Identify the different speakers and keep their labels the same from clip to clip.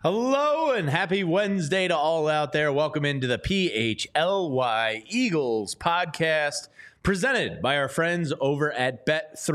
Speaker 1: Hello and happy Wednesday to all out there. Welcome into the PHLY Eagles podcast presented by our friends over at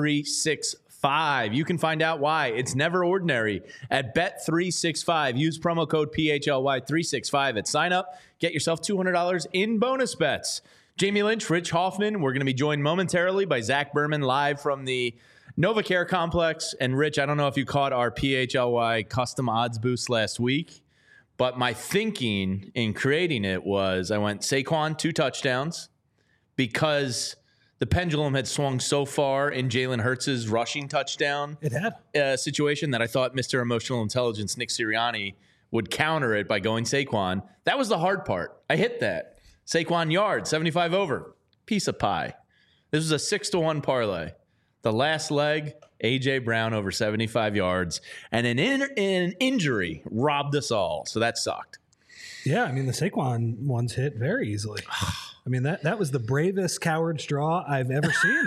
Speaker 1: Bet365. You can find out why it's never ordinary at Bet365. Use promo code PHLY365 at sign up. Get yourself $200 in bonus bets. Jamie Lynch, Rich Hoffman. We're going to be joined momentarily by Zach Berman live from the NovaCare Complex. And Rich, I don't know if you caught our PHLY custom odds boost last week, but my thinking in creating it was I went Saquon 2 touchdowns because the pendulum had swung so far in Jalen Hurts' rushing touchdown situation that I thought Mr. Emotional Intelligence Nick Sirianni would counter it by going Saquon. That was the hard part. I hit that. Saquon yards, 75 over. Piece of pie. This was a 6-1 parlay. The last leg, A.J. Brown over 75 yards, and an injury robbed us all. So that sucked.
Speaker 2: Yeah, I mean, the Saquon ones hit very easily. I mean, that was the bravest coward's draw I've ever seen.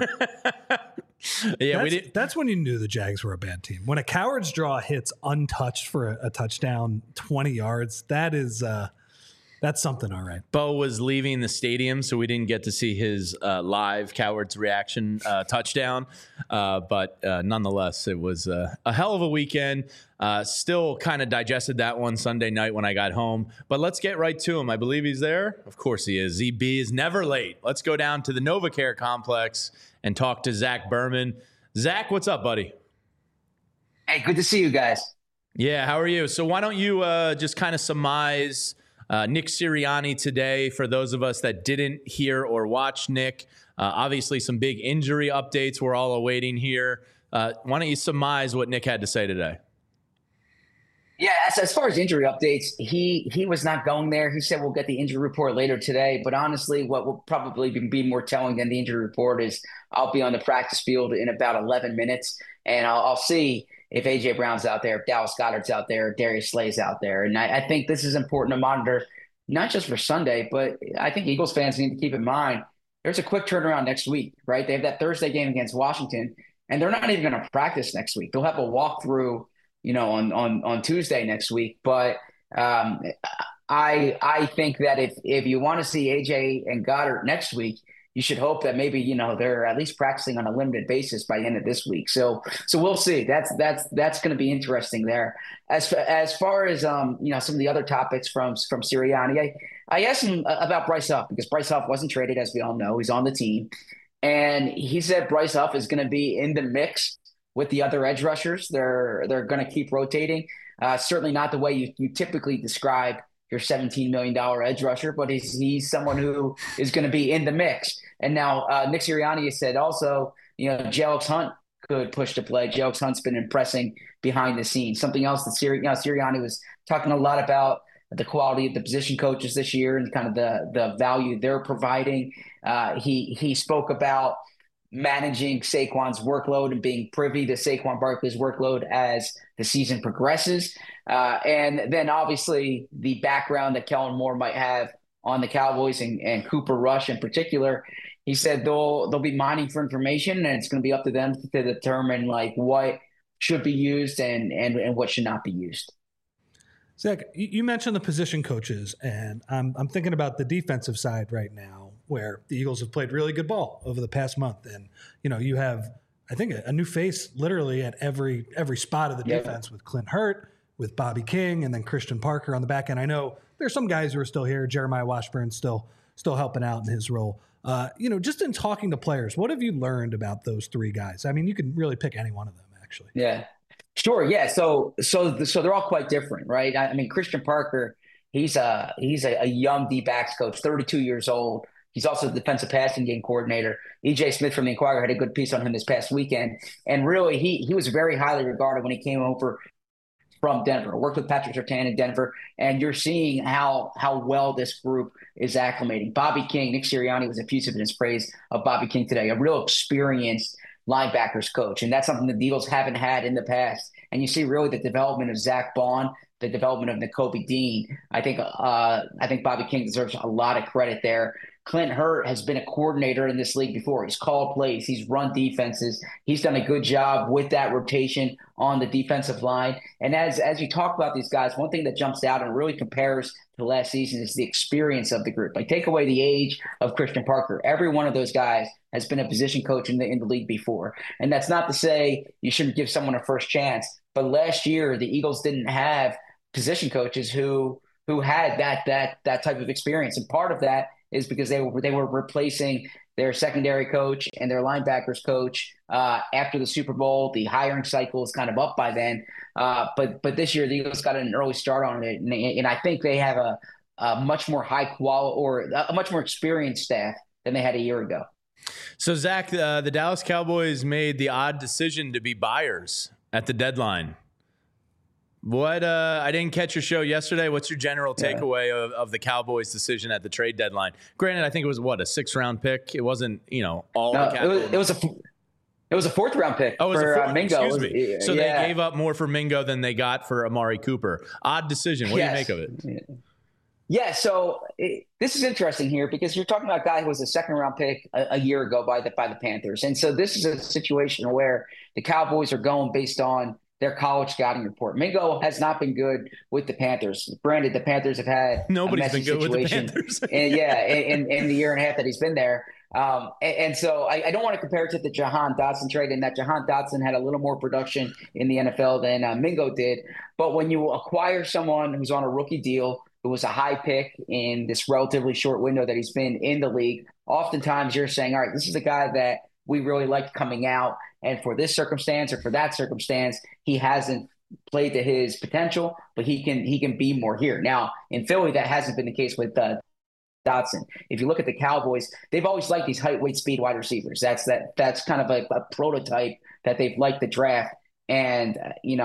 Speaker 1: Yeah,
Speaker 2: that's when you knew the Jags were a bad team. When a coward's draw hits untouched for a touchdown, 20 yards, that's something, all right.
Speaker 1: Bo was leaving the stadium, so we didn't get to see his live Coward's reaction touchdown. But nonetheless, it was a hell of a weekend. Still kind of digested that one Sunday night when I got home. But let's get right to him. I believe he's there. Of course he is. ZB is never late. Let's go down to the NovaCare Complex and talk to Zach Berman. Zach, what's up, buddy?
Speaker 3: Hey, good to see you guys.
Speaker 1: Yeah, how are you? So why don't you just kind of surmise Nick Sirianni today for those of us that didn't hear or watch Nick. Obviously, some big injury updates we're all awaiting here. Why don't you surmise what Nick had to say today?
Speaker 3: Yeah, as far as injury updates, he was not going there. He said we'll get the injury report later today. But honestly, what will probably be more telling than the injury report is I'll be on the practice field in about 11 minutes, and I'll see if A.J. Brown's out there, if Dallas Goedert's out there, if Darius Slay's out there. And I think this is important to monitor, not just for Sunday, but I think Eagles fans need to keep in mind there's a quick turnaround next week, right? They have that Thursday game against Washington, and they're not even going to practice next week. They'll have a walkthrough, on Tuesday next week. But I think that if you want to see A.J. and Goddard next week, you should hope that maybe, they're at least practicing on a limited basis by the end of this week. So we'll see. That's going to be interesting there. As far as, some of the other topics from Sirianni, I asked him about Bryce Huff because Bryce Huff wasn't traded, as we all know. He's on the team. And he said Bryce Huff is going to be in the mix with the other edge rushers. They're going to keep rotating. Certainly not the way you typically describe your $17 million edge rusher, but he's someone who is going to be in the mix. And now Nick Sirianni has said also, Jalen Hunt could push to play. Jalen Hunt's been impressing behind the scenes. Something else that Sirianni was talking a lot about, the quality of the position coaches this year and kind of the value they're providing. He spoke about managing Saquon's workload and being privy to Saquon Barkley's workload as the season progresses. And then obviously the background that Kellen Moore might have on the Cowboys and Cooper Rush in particular. He said they'll be mining for information, and it's going to be up to them to determine like what should be used and what should not be used.
Speaker 2: Zach, you mentioned the position coaches, and I'm thinking about the defensive side right now, where the Eagles have played really good ball over the past month, and you have, I think, a new face literally at every spot of the defense with Clint Hurt, with Bobby King, and then Christian Parker on the back end. I know there's some guys who are still here. Jeremiah Washburn still helping out in his role. Just in talking to players, what have you learned about those three guys? I mean, you can really pick any one of them, actually.
Speaker 3: Yeah. Sure. Yeah. So they're all quite different, right? I mean, Christian Parker, he's a young D-backs coach, 32 years old. He's also the defensive passing game coordinator. E.J. Smith from the Inquirer had a good piece on him this past weekend. And really, he was very highly regarded when he came over from Denver. Worked with Patrick Surtain in Denver. And you're seeing how well this group is acclimating. Bobby King, Nick Sirianni was effusive in his praise of Bobby King today, a real experienced linebackers coach. And that's something the Eagles haven't had in the past. And you see really the development of Zach Bond, the development of Nakobe Dean. I think Bobby King deserves a lot of credit there. Clint Hurt has been a coordinator in this league before. He's called plays. He's run defenses. He's done a good job with that rotation on the defensive line. And as you talk about these guys, one thing that jumps out and really compares to last season is the experience of the group. Like, take away the age of Christian Parker. Every one of those guys has been a position coach in the league before. And that's not to say you shouldn't give someone a first chance. But last year, the Eagles didn't have position coaches who had that type of experience. And part of that is because they were replacing their secondary coach and their linebackers coach after the Super Bowl. The hiring cycle is kind of up by then. But this year, the Eagles got an early start on it. And I think they have a much more high quality or a much more experienced staff than they had a year ago.
Speaker 1: So, Zach, the Dallas Cowboys made the odd decision to be buyers at the deadline. What I didn't catch your show yesterday. What's your general takeaway of the Cowboys' decision at the trade deadline? Granted, I think it was a 6th-round pick. It wasn't, all the capital.
Speaker 3: It was a 4th-round pick for Mingo.
Speaker 1: Excuse me. So they gave up more for Mingo than they got for Amari Cooper. Odd decision. What do you make of it?
Speaker 3: Yeah, so this is interesting here because you're talking about a guy who was a 2nd-round pick a year ago by the Panthers. And so this is a situation where the Cowboys are going based on their college scouting report. Mingo has not been good with the Panthers. Granted, the Panthers have had
Speaker 1: nobody's been good situation. With the Panthers.
Speaker 3: in the year and a half that he's been there. And so I don't want to compare it to the Jahan Dotson trade, in that Jahan Dotson had a little more production in the NFL than Mingo did. But when you acquire someone who's on a rookie deal, who was a high pick in this relatively short window that he's been in the league, oftentimes you're saying, all right, this is a guy that we really liked coming out. And for this circumstance or for that circumstance, he hasn't played to his potential, but he can be more here. Now, in Philly, that hasn't been the case with Dotson. If you look at the Cowboys, they've always liked these height, weight, speed wide receivers. That's kind of a prototype that they've liked the draft. And,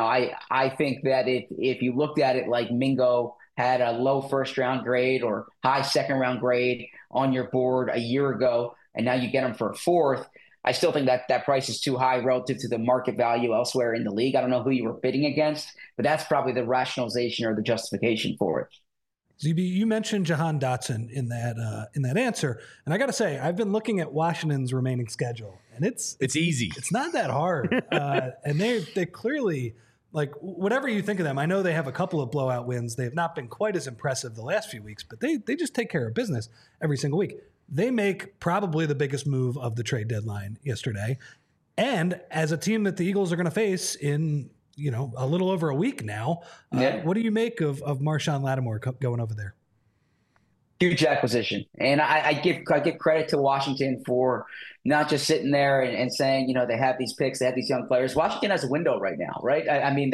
Speaker 3: I think that if you looked at it like Mingo had a low 1st-round grade or high 2nd-round grade on your board a year ago, and now you get him for a 4th, I still think that price is too high relative to the market value elsewhere in the league. I don't know who you were bidding against, but that's probably the rationalization or the justification for it.
Speaker 2: ZB, you mentioned Jahan Dotson in that answer, and I got to say, I've been looking at Washington's remaining schedule, and it's
Speaker 1: easy.
Speaker 2: It's not that hard, and they clearly, like, whatever you think of them. I know they have a couple of blowout wins. They have not been quite as impressive the last few weeks, but they just take care of business every single week. They make probably the biggest move of the trade deadline yesterday. And as a team that the Eagles are going to face in, a little over a week now, what do you make of Marshawn Lattimore going over there?
Speaker 3: Huge acquisition. And I give credit to Washington for not just sitting there and saying, they have these picks, they have these young players. Washington has a window right now, right? I mean,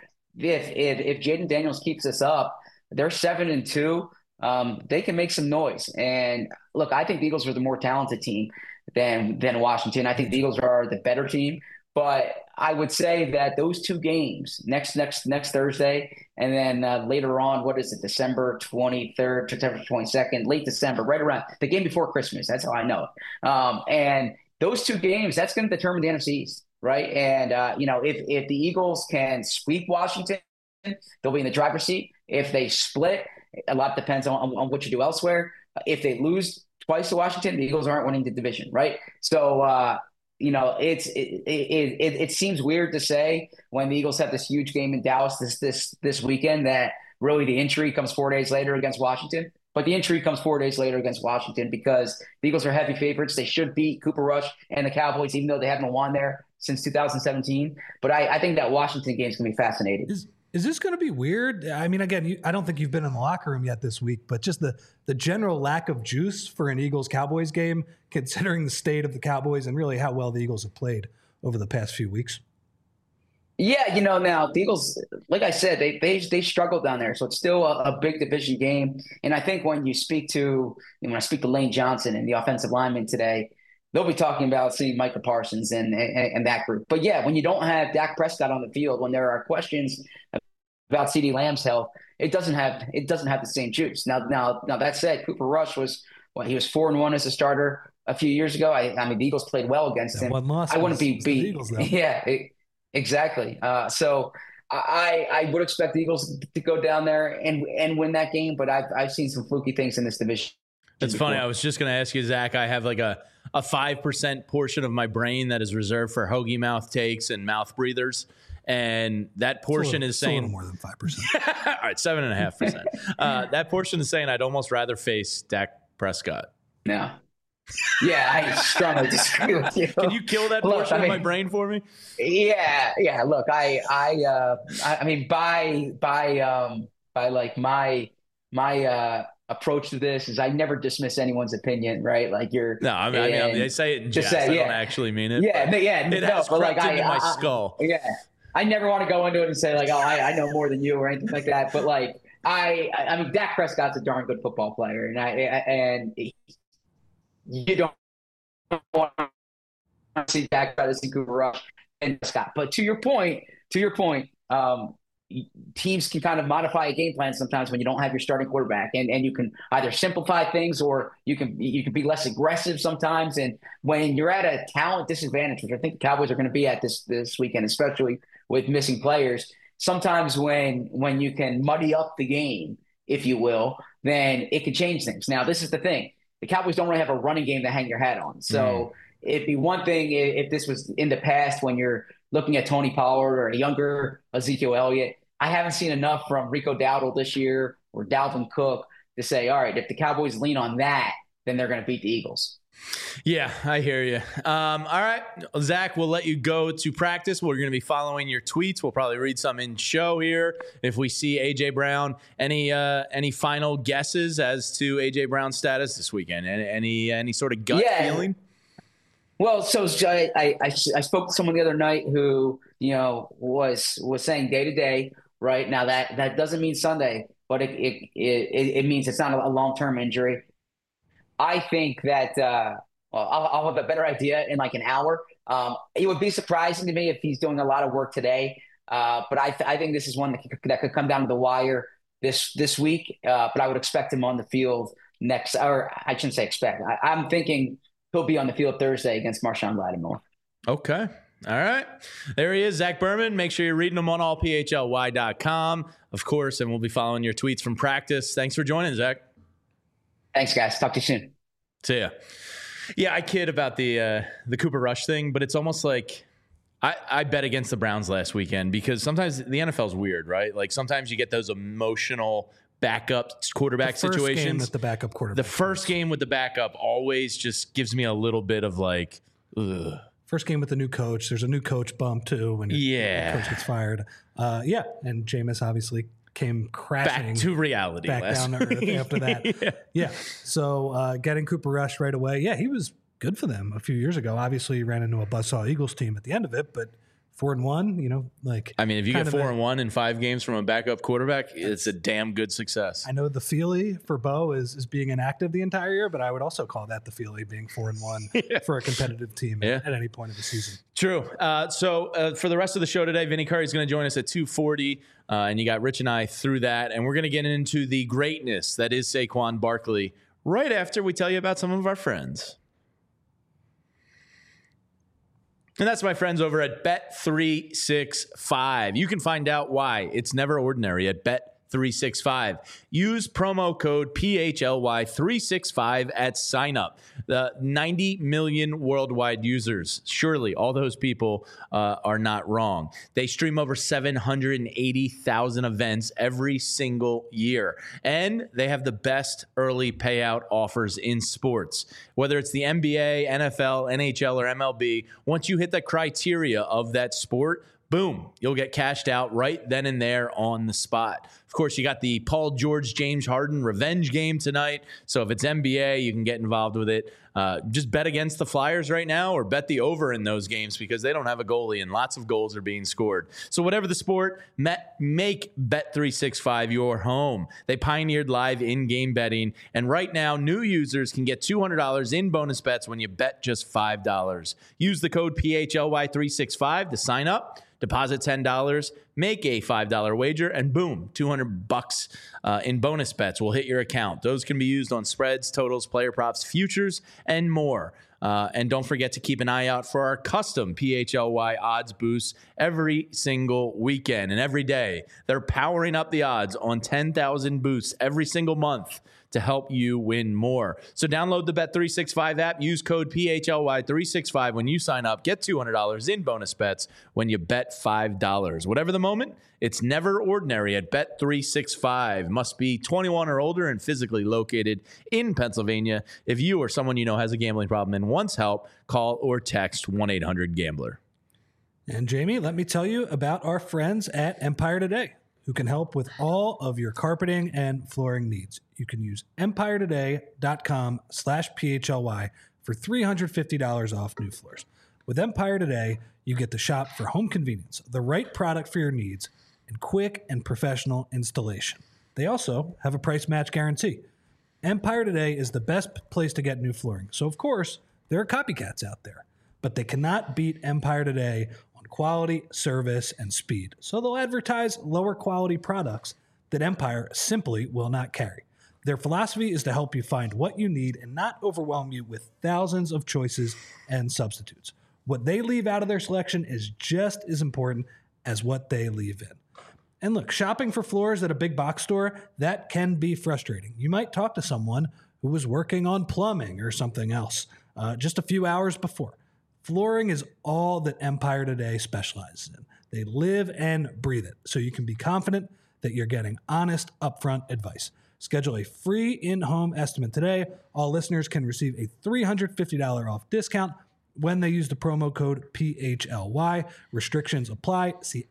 Speaker 3: if Jaden Daniels keeps this up, they're 7-2. They can make some noise. And look, I think the Eagles are the more talented team than Washington. I think the Eagles are the better team. But I would say that those 2 games, next Thursday, and then later on, December 23rd, September 22nd, late December, right around the game before Christmas. That's how I know it. And those 2 games, that's going to determine the NFC East, right? And, if the Eagles can sweep Washington, they'll be in the driver's seat. If they split, a lot depends on what you do elsewhere. If they lose twice to Washington, the Eagles aren't winning the division, right? So, it seems weird to say when the Eagles have this huge game in Dallas this weekend that really the injury comes 4 days later against Washington. But the injury comes 4 days later against Washington because the Eagles are heavy favorites. They should beat Cooper Rush and the Cowboys, even though they haven't won there since 2017. But I think that Washington game is going to be fascinating.
Speaker 2: Is this going to be weird? I mean, again, I don't think you've been in the locker room yet this week, but just the general lack of juice for an Eagles-Cowboys game, considering the state of the Cowboys and really how well the Eagles have played over the past few weeks.
Speaker 3: Yeah, now the Eagles, like I said, they struggled down there, so it's still a big division game. And I think when I speak to Lane Johnson and the offensive lineman today, they'll be talking about seeing Micah Parsons and that group. But yeah, when you don't have Dak Prescott on the field, when there are questions about CeeDee Lamb's health, it doesn't have the same juice. Now that said, Cooper Rush he was 4-1 as a starter a few years ago. I mean, the Eagles played well against him. I wouldn't be
Speaker 2: Eagles, though.
Speaker 3: Yeah, exactly. So I would expect the Eagles to go down there and win that game, but I've seen some fluky things in this division.
Speaker 1: That's funny. I was just going to ask you, Zach. I have like a 5% portion of my brain that is reserved for hoagie mouth takes and mouth breathers. And that portion is saying
Speaker 2: more than 5%.
Speaker 1: All right, 7.5%. That portion is saying I'd almost rather face Dak Prescott.
Speaker 3: No. Yeah, I strongly disagree with you.
Speaker 1: Can you kill that portion of my brain for me?
Speaker 3: Yeah. Look, I mean, by like my approach to this is I never dismiss anyone's opinion, right? Like
Speaker 1: No, I mean, they say it in jest. I don't actually mean it.
Speaker 3: Yeah, it has
Speaker 1: crept into my skull.
Speaker 3: Yeah. I never want to go into it and say like, oh, I know more than you or anything like that. But like, I mean, Dak Prescott's a darn good football player, and you don't want to see Dak try to see Cooper Rush and Prescott. But to your point, teams can kind of modify a game plan sometimes when you don't have your starting quarterback, and you can either simplify things or you can be less aggressive sometimes. And when you're at a talent disadvantage, which I think the Cowboys are going to be at this weekend, especially with missing players, sometimes when you can muddy up the game, if you will, then it can change things. Now, this is the thing. The Cowboys don't really have a running game to hang your hat on. So it'd be one thing if this was in the past when you're looking at Tony Pollard or a younger Ezekiel Elliott. I haven't seen enough from Rico Dowdle this year or Dalvin Cook to say, all right, if the Cowboys lean on that, then they're going to beat the Eagles.
Speaker 1: Yeah, I hear you. All right, Zach, we'll let you go to practice. We're going to be following your tweets. We'll probably read some in show here if we see A.J. Brown. Any final guesses as to A.J. Brown's status this weekend? Any sort of gut feeling?
Speaker 3: Well, so I spoke to someone the other night who was saying day to day. Right now, that doesn't mean Sunday, but it means it's not a long-term injury. I think that I'll have a better idea in like an hour. It would be surprising to me if he's doing a lot of work today, but I think this is one that could come down to the wire this week. But I would expect him on the field next, or I shouldn't say expect. I'm thinking he'll be on the field Thursday against Marshawn Lattimore.
Speaker 1: Okay. All right. There he is, Zach Berman. Make sure you're reading him on allphly.com, of course, and we'll be following your tweets from practice. Thanks for joining, Zach.
Speaker 3: Thanks, guys. Talk to you soon.
Speaker 1: See ya. Yeah, I kid about the Cooper Rush thing, but it's almost like I bet against the Browns last weekend because sometimes the NFL is weird, right? Like sometimes you get those emotional backup quarterback situations. The first game with the backup always just gives me a little bit of like, ugh.
Speaker 2: First game with the new coach. There's a new coach bump too when the coach gets fired. And Jameis obviously came crashing
Speaker 1: back to reality,
Speaker 2: back down to earth after that. So getting Cooper Rush right away. Yeah, he was good for them a few years ago. Obviously, he ran into a buzzsaw Eagles team at the end of it, but 4-1,
Speaker 1: if you get 4-1 in 5 games from a backup quarterback, it's a damn good success.
Speaker 2: I know the feelie for Bo is being inactive the entire year, but I would also call that the feelie being 4-1 for a competitive team at any point of the season.
Speaker 1: True. So for the rest of the show today, Vinny Curry is going to join us at 2:40, and you got Rich and I through that, and we're going to get into the greatness that is Saquon Barkley right after we tell you about some of our friends. And that's my friends over at Bet365. You can find out why it's never ordinary at Bet365. Use promo code PHLY365 at sign up. The 90 million worldwide users. Surely all those people are not wrong. They stream over 780,000 events every single year. And they have the best early payout offers in sports. Whether it's the NBA, NFL, NHL, or MLB, once you hit the criteria of that sport, boom, you'll get cashed out right then and there on the spot. Of course, you got the Paul George, James Harden revenge game tonight. So if it's NBA, you can get involved with it. Just bet against the Flyers right now or bet the over in those games because they don't have a goalie and lots of goals are being scored. So whatever the sport, make Bet365 your home. They pioneered live in-game betting. And right now, new users can get $200 in bonus bets when you bet just $5. Use the code PHLY365 to sign up. Deposit $10, make a $5 wager, and boom, $200 in bonus bets will hit your account. Those can be used on spreads, totals, player props, futures, and more. And don't forget to keep an eye out for our custom PHLY odds boosts every single weekend and every day. They're powering up the odds on 10,000 boosts every single month to help you win more. So download the Bet365 app. Use code PHLY365 when you sign up. Get $200 in bonus bets when you bet $5. Whatever the moment, it's never ordinary at Bet365. Must be 21 or older and physically located in Pennsylvania. If you or someone you know has a gambling problem and wants help, call or text 1-800-GAMBLER.
Speaker 2: And Jamie, let me tell you about our friends at Empire Today, who can help with all of your carpeting and flooring needs. You can use empiretoday.com/PHLY for $350 off new floors. With Empire Today, you get to shop for home convenience, the right product for your needs, and quick and professional installation. They also have a price match guarantee. Empire Today is the best place to get new flooring. So, of course, there are copycats out there, but they cannot beat Empire Today on quality, service, and speed. So they'll advertise lower quality products that Empire simply will not carry. Their philosophy is to help you find what you need and not overwhelm you with thousands of choices and substitutes. What they leave out of their selection is just as important as what they leave in. And look, shopping for floors at a big box store, that can be frustrating. You might talk to someone who was working on plumbing or something else just a few hours before. Flooring is all that Empire Today specializes in. They live and breathe it, so you can be confident that you're getting honest, upfront advice. Schedule a free in-home estimate today. All listeners can receive a $350 off discount when they use the promo code PHLY. Restrictions apply. See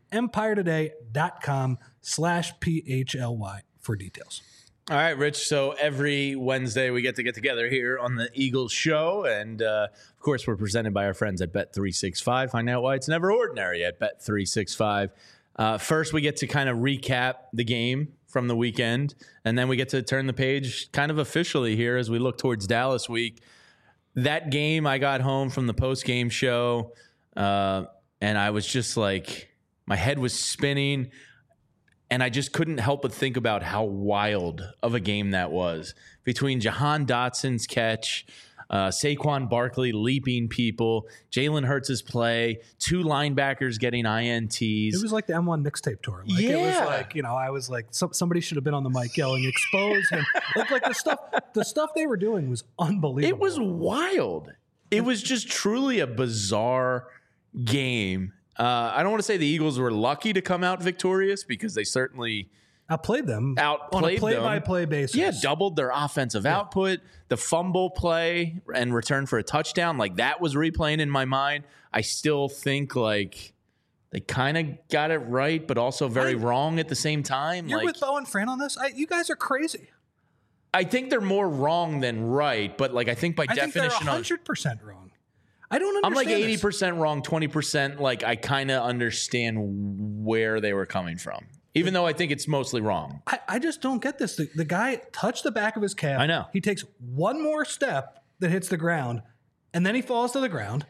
Speaker 2: empiretoday.com/PHLY for details.
Speaker 1: All right, Rich. So every Wednesday we get together here on the Eagles Show. And, of course, we're presented by our friends at Bet365. Find out why it's never ordinary at Bet365. First, we get to kind of recap the game from the weekend. And then we get to turn the page kind of officially here as we look towards Dallas week. That game, I got home from the post-game show, and I was just like, my head was spinning. And I just couldn't help but think about how wild of a game that was. Between Jahan Dotson's catch, Saquon Barkley leaping people, Jalen Hurts' play, two linebackers getting INTs.
Speaker 2: It was like the M1 mixtape tour. Like,
Speaker 1: yeah.
Speaker 2: It was like, I was like, somebody should have been on the mic yelling, expose him. like the stuff they were doing was unbelievable.
Speaker 1: It was wild. It was just truly a bizarre game. I don't want to say the Eagles were lucky to come out victorious because they certainly
Speaker 2: outplayed them on
Speaker 1: a
Speaker 2: play-by-play basis.
Speaker 1: Yeah, doubled their offensive output. The fumble play and return for a touchdown, like that was replaying in my mind. I still think like they kind of got it right, but also very wrong at the same time.
Speaker 2: You're with Bo and Fran on this? You guys are crazy.
Speaker 1: I think they're more wrong than right, but like I think by definition,
Speaker 2: they're 100% wrong. I don't understand.
Speaker 1: I'm like 80% wrong, 20% like I kind of understand where they were coming from, even though I think it's mostly wrong.
Speaker 2: I just don't get this. The guy touched the back of his calf.
Speaker 1: I know.
Speaker 2: He takes one more step that hits the ground, and then he falls to the ground.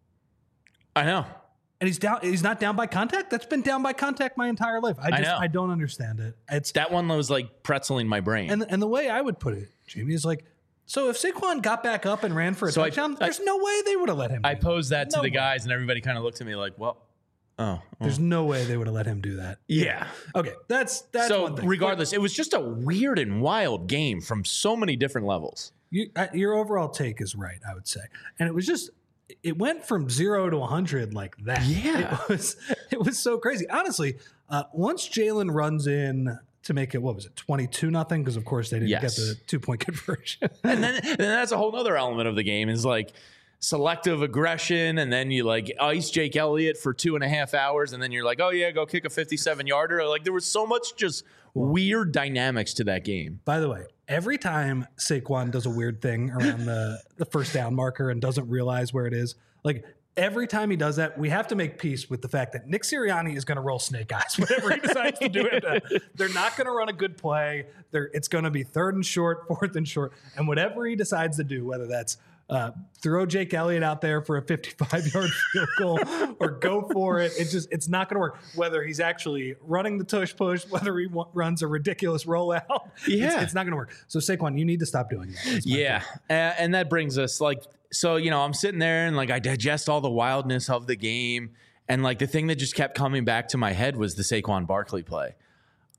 Speaker 1: I know.
Speaker 2: And he's down. He's not down by contact. That's been down by contact my entire life. I don't understand it.
Speaker 1: That one was like pretzeling my brain.
Speaker 2: And the way I would put it, Jamie, is like, so if Saquon got back up and ran for a touchdown, there's no way they would have let him.
Speaker 1: I posed that to the guys, and everybody kind of looked at me like, well,
Speaker 2: there's no way they would have let him do that.
Speaker 1: Yeah.
Speaker 2: Okay, that's
Speaker 1: so
Speaker 2: one thing.
Speaker 1: Regardless, it was just a weird and wild game from so many different levels.
Speaker 2: Your overall take is right, I would say. And it went from 0 to 100 like that.
Speaker 1: Yeah.
Speaker 2: It was so crazy. Honestly, once Jalen runs in to make it, 22-0? Because of course they didn't get the 2-point conversion.
Speaker 1: and then that's a whole other element of the game is like selective aggression, and then you like ice Jake Elliott for 2.5 hours, and then you're like, oh yeah, go kick a 57-yarder. Like there was so much just weird dynamics to that game.
Speaker 2: By the way, every time Saquon does a weird thing around the first down marker and doesn't realize where it is, like every time he does that, we have to make peace with the fact that Nick Sirianni is going to roll snake eyes whenever he decides to do it. They're not going to run a good play. It's going to be 3rd and short, 4th and short, and whatever he decides to do, whether that's throw Jake Elliott out there for a 55-yard field goal or go for it. It's not going to work. Whether he's actually running the tush push, whether he runs a ridiculous rollout, it's not going to work. So Saquon, you need to stop doing that.
Speaker 1: Yeah, and that brings us like, so I'm sitting there and like I digest all the wildness of the game, and like the thing that just kept coming back to my head was the Saquon Barkley play.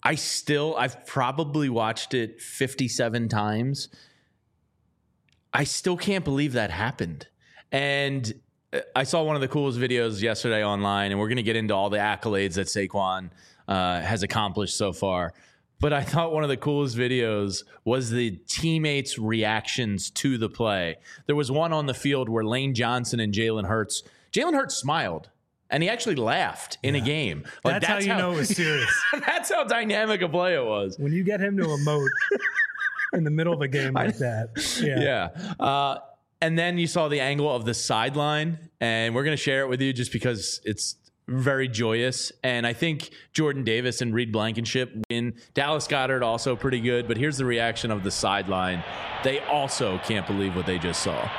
Speaker 1: I've probably watched it 57 times. I still can't believe that happened. And I saw one of the coolest videos yesterday online, and we're going to get into all the accolades that Saquon has accomplished so far. But I thought one of the coolest videos was the teammates' reactions to the play. There was one on the field where Lane Johnson and Jalen Hurts smiled. And he actually laughed in a game.
Speaker 2: Like, that's how you know it was serious.
Speaker 1: That's how dynamic a play it was.
Speaker 2: When you get him to emote in the middle of a game like that.
Speaker 1: Yeah. And then you saw the angle of the sideline, and we're going to share it with you just because it's very joyous. And I think Jordan Davis and Reed Blankenship win. Dallas Goedert also pretty good, but here's the reaction of the sideline. They also can't believe what they just saw.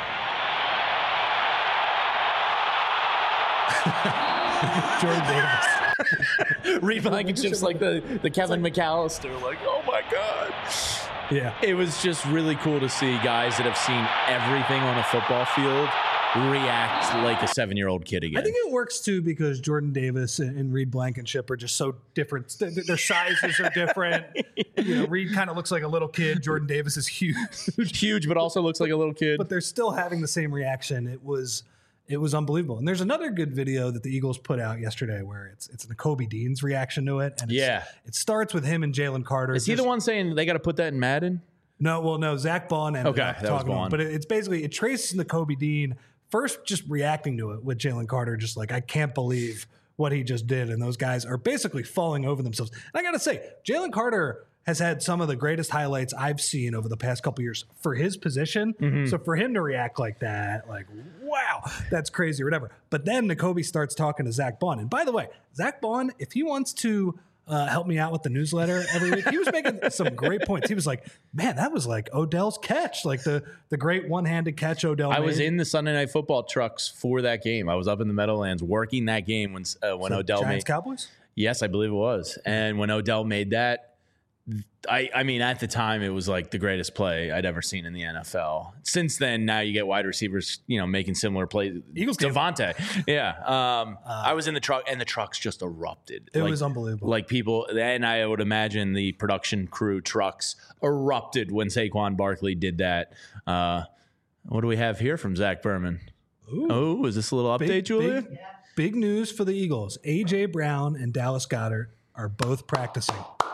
Speaker 2: Jordan Davis.
Speaker 1: Reed Blankenship's like the Kevin McAllister, like, oh my God.
Speaker 2: Yeah.
Speaker 1: It was just really cool to see guys that have seen everything on a football field react like a 7-year-old kid again.
Speaker 2: I think it works too because Jordan Davis and Reed Blankenship are just so different. Their sizes are different. Reed kind of looks like a little kid. Jordan Davis is huge,
Speaker 1: but also looks like a little kid.
Speaker 2: But they're still having the same reaction. It was unbelievable. And there's another good video that the Eagles put out yesterday where it's Nakobe Dean's reaction to it. And it starts with him and Jalen Carter.
Speaker 1: Is he the one saying they got to put that in Madden?
Speaker 2: No, Zach Bond ended up
Speaker 1: that was Bond.
Speaker 2: But it's basically, it traces Nakobe Dean first just reacting to it with Jalen Carter, just like, I can't believe what he just did. And those guys are basically falling over themselves. And I got to say, Jalen Carter has had some of the greatest highlights I've seen over the past couple of years for his position. Mm-hmm. So for him to react like that, like, wow, that's crazy or whatever. But then Nakobe starts talking to Zach Bond. And by the way, Zach Bond, if he wants to help me out with the newsletter every week, he was making some great points. He was like, man, that was like Odell's catch, like the great one-handed catch Odell made.
Speaker 1: I was in the Sunday Night Football trucks for that game. I was up in the Meadowlands working that game when Odell
Speaker 2: Giants Cowboys?
Speaker 1: Yes, I believe it was. And when Odell made that, I mean, at the time, it was like the greatest play I'd ever seen in the NFL. Since then, now you get wide receivers, making similar plays.
Speaker 2: Eagles
Speaker 1: Devontae. Yeah. I was in the truck, and the trucks just erupted.
Speaker 2: It was unbelievable.
Speaker 1: Like people, and I would imagine the production crew trucks erupted when Saquon Barkley did that. What do we have here from Zach Berman? Oh, is this a little update, Julia?
Speaker 2: Big news for the Eagles. A.J. Brown and Dallas Goedert are both practicing.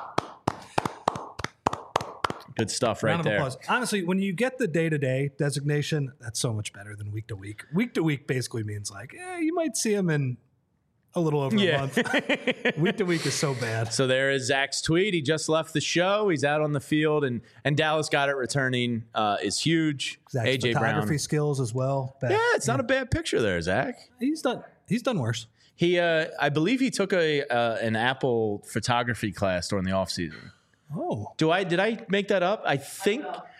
Speaker 1: Good stuff right there.
Speaker 2: Applause. Honestly, when you get the day-to-day designation, that's so much better than week-to-week. Week-to-week basically means like, you might see him in a little over a month. Week-to-week is so bad.
Speaker 1: So there is Zach's tweet. He just left the show. He's out on the field, and Dallas Goedert returning is huge.
Speaker 2: Zach's
Speaker 1: AJ
Speaker 2: photography
Speaker 1: Brown
Speaker 2: skills as well.
Speaker 1: It's not a bad picture there, Zach.
Speaker 2: He's done worse.
Speaker 1: He, I believe he took an Apple photography class during the offseason.
Speaker 2: Oh,
Speaker 1: did I make that up? I think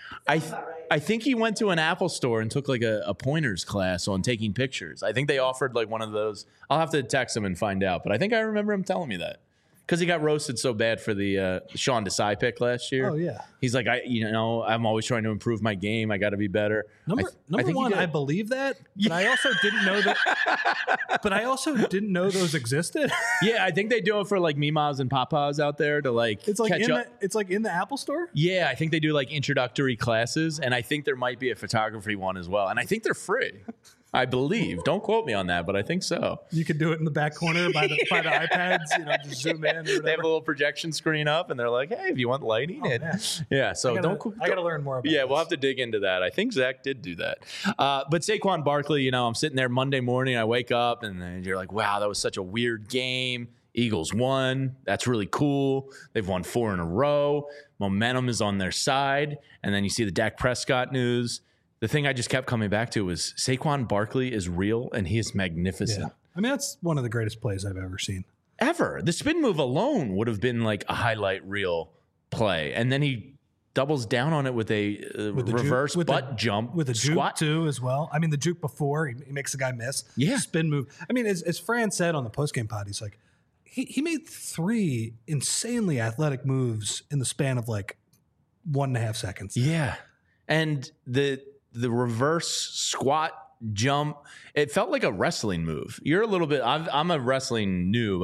Speaker 1: he went to an Apple store and took like a pointers class on taking pictures. I think they offered like one of those. I'll have to text him and find out, but I think I remember him telling me that because he got roasted so bad for the Sean Desai pick last year.
Speaker 2: Oh yeah,
Speaker 1: he's like, I'm always trying to improve my game. I got to be better.
Speaker 2: Number one, I believe that, but I also didn't know that. But I also didn't know those existed.
Speaker 1: Yeah, I think they do it for like Mimas and Papas out there to like
Speaker 2: it's like
Speaker 1: catch up.
Speaker 2: It's like in the Apple store.
Speaker 1: Yeah, I think they do like introductory classes, and I think there might be a photography one as well, and I think they're free. I believe. Don't quote me on that, but I think so.
Speaker 2: You could do it in the back corner by the iPads. Just zoom in.
Speaker 1: They have a little projection screen up, and they're like, "Hey, if you want lighting, yeah." So
Speaker 2: I gotta learn more about.
Speaker 1: Yeah,
Speaker 2: this.
Speaker 1: We'll have to dig into that. I think Zach did do that, but Saquon Barkley. I'm sitting there Monday morning. I wake up, and you're like, "Wow, that was such a weird game." Eagles won. That's really cool. They've won 4 in a row. Momentum is on their side, and then you see the Dak Prescott news. The thing I just kept coming back to was Saquon Barkley is real, and he is magnificent.
Speaker 2: Yeah. I mean, that's one of the greatest plays I've ever seen.
Speaker 1: Ever. The spin move alone would have been like a highlight reel play. And then he doubles down on it with a reverse butt jump.
Speaker 2: With a
Speaker 1: squat
Speaker 2: juke, too, as well. I mean, the juke before, he makes the guy miss.
Speaker 1: Yeah.
Speaker 2: Spin move. I mean, as Fran said on the postgame pod, he's like, he made 3 insanely athletic moves in the span of like 1.5 seconds.
Speaker 1: Yeah. And the reverse squat jump, it felt like a wrestling move. You're a little bit, I'm a wrestling noob.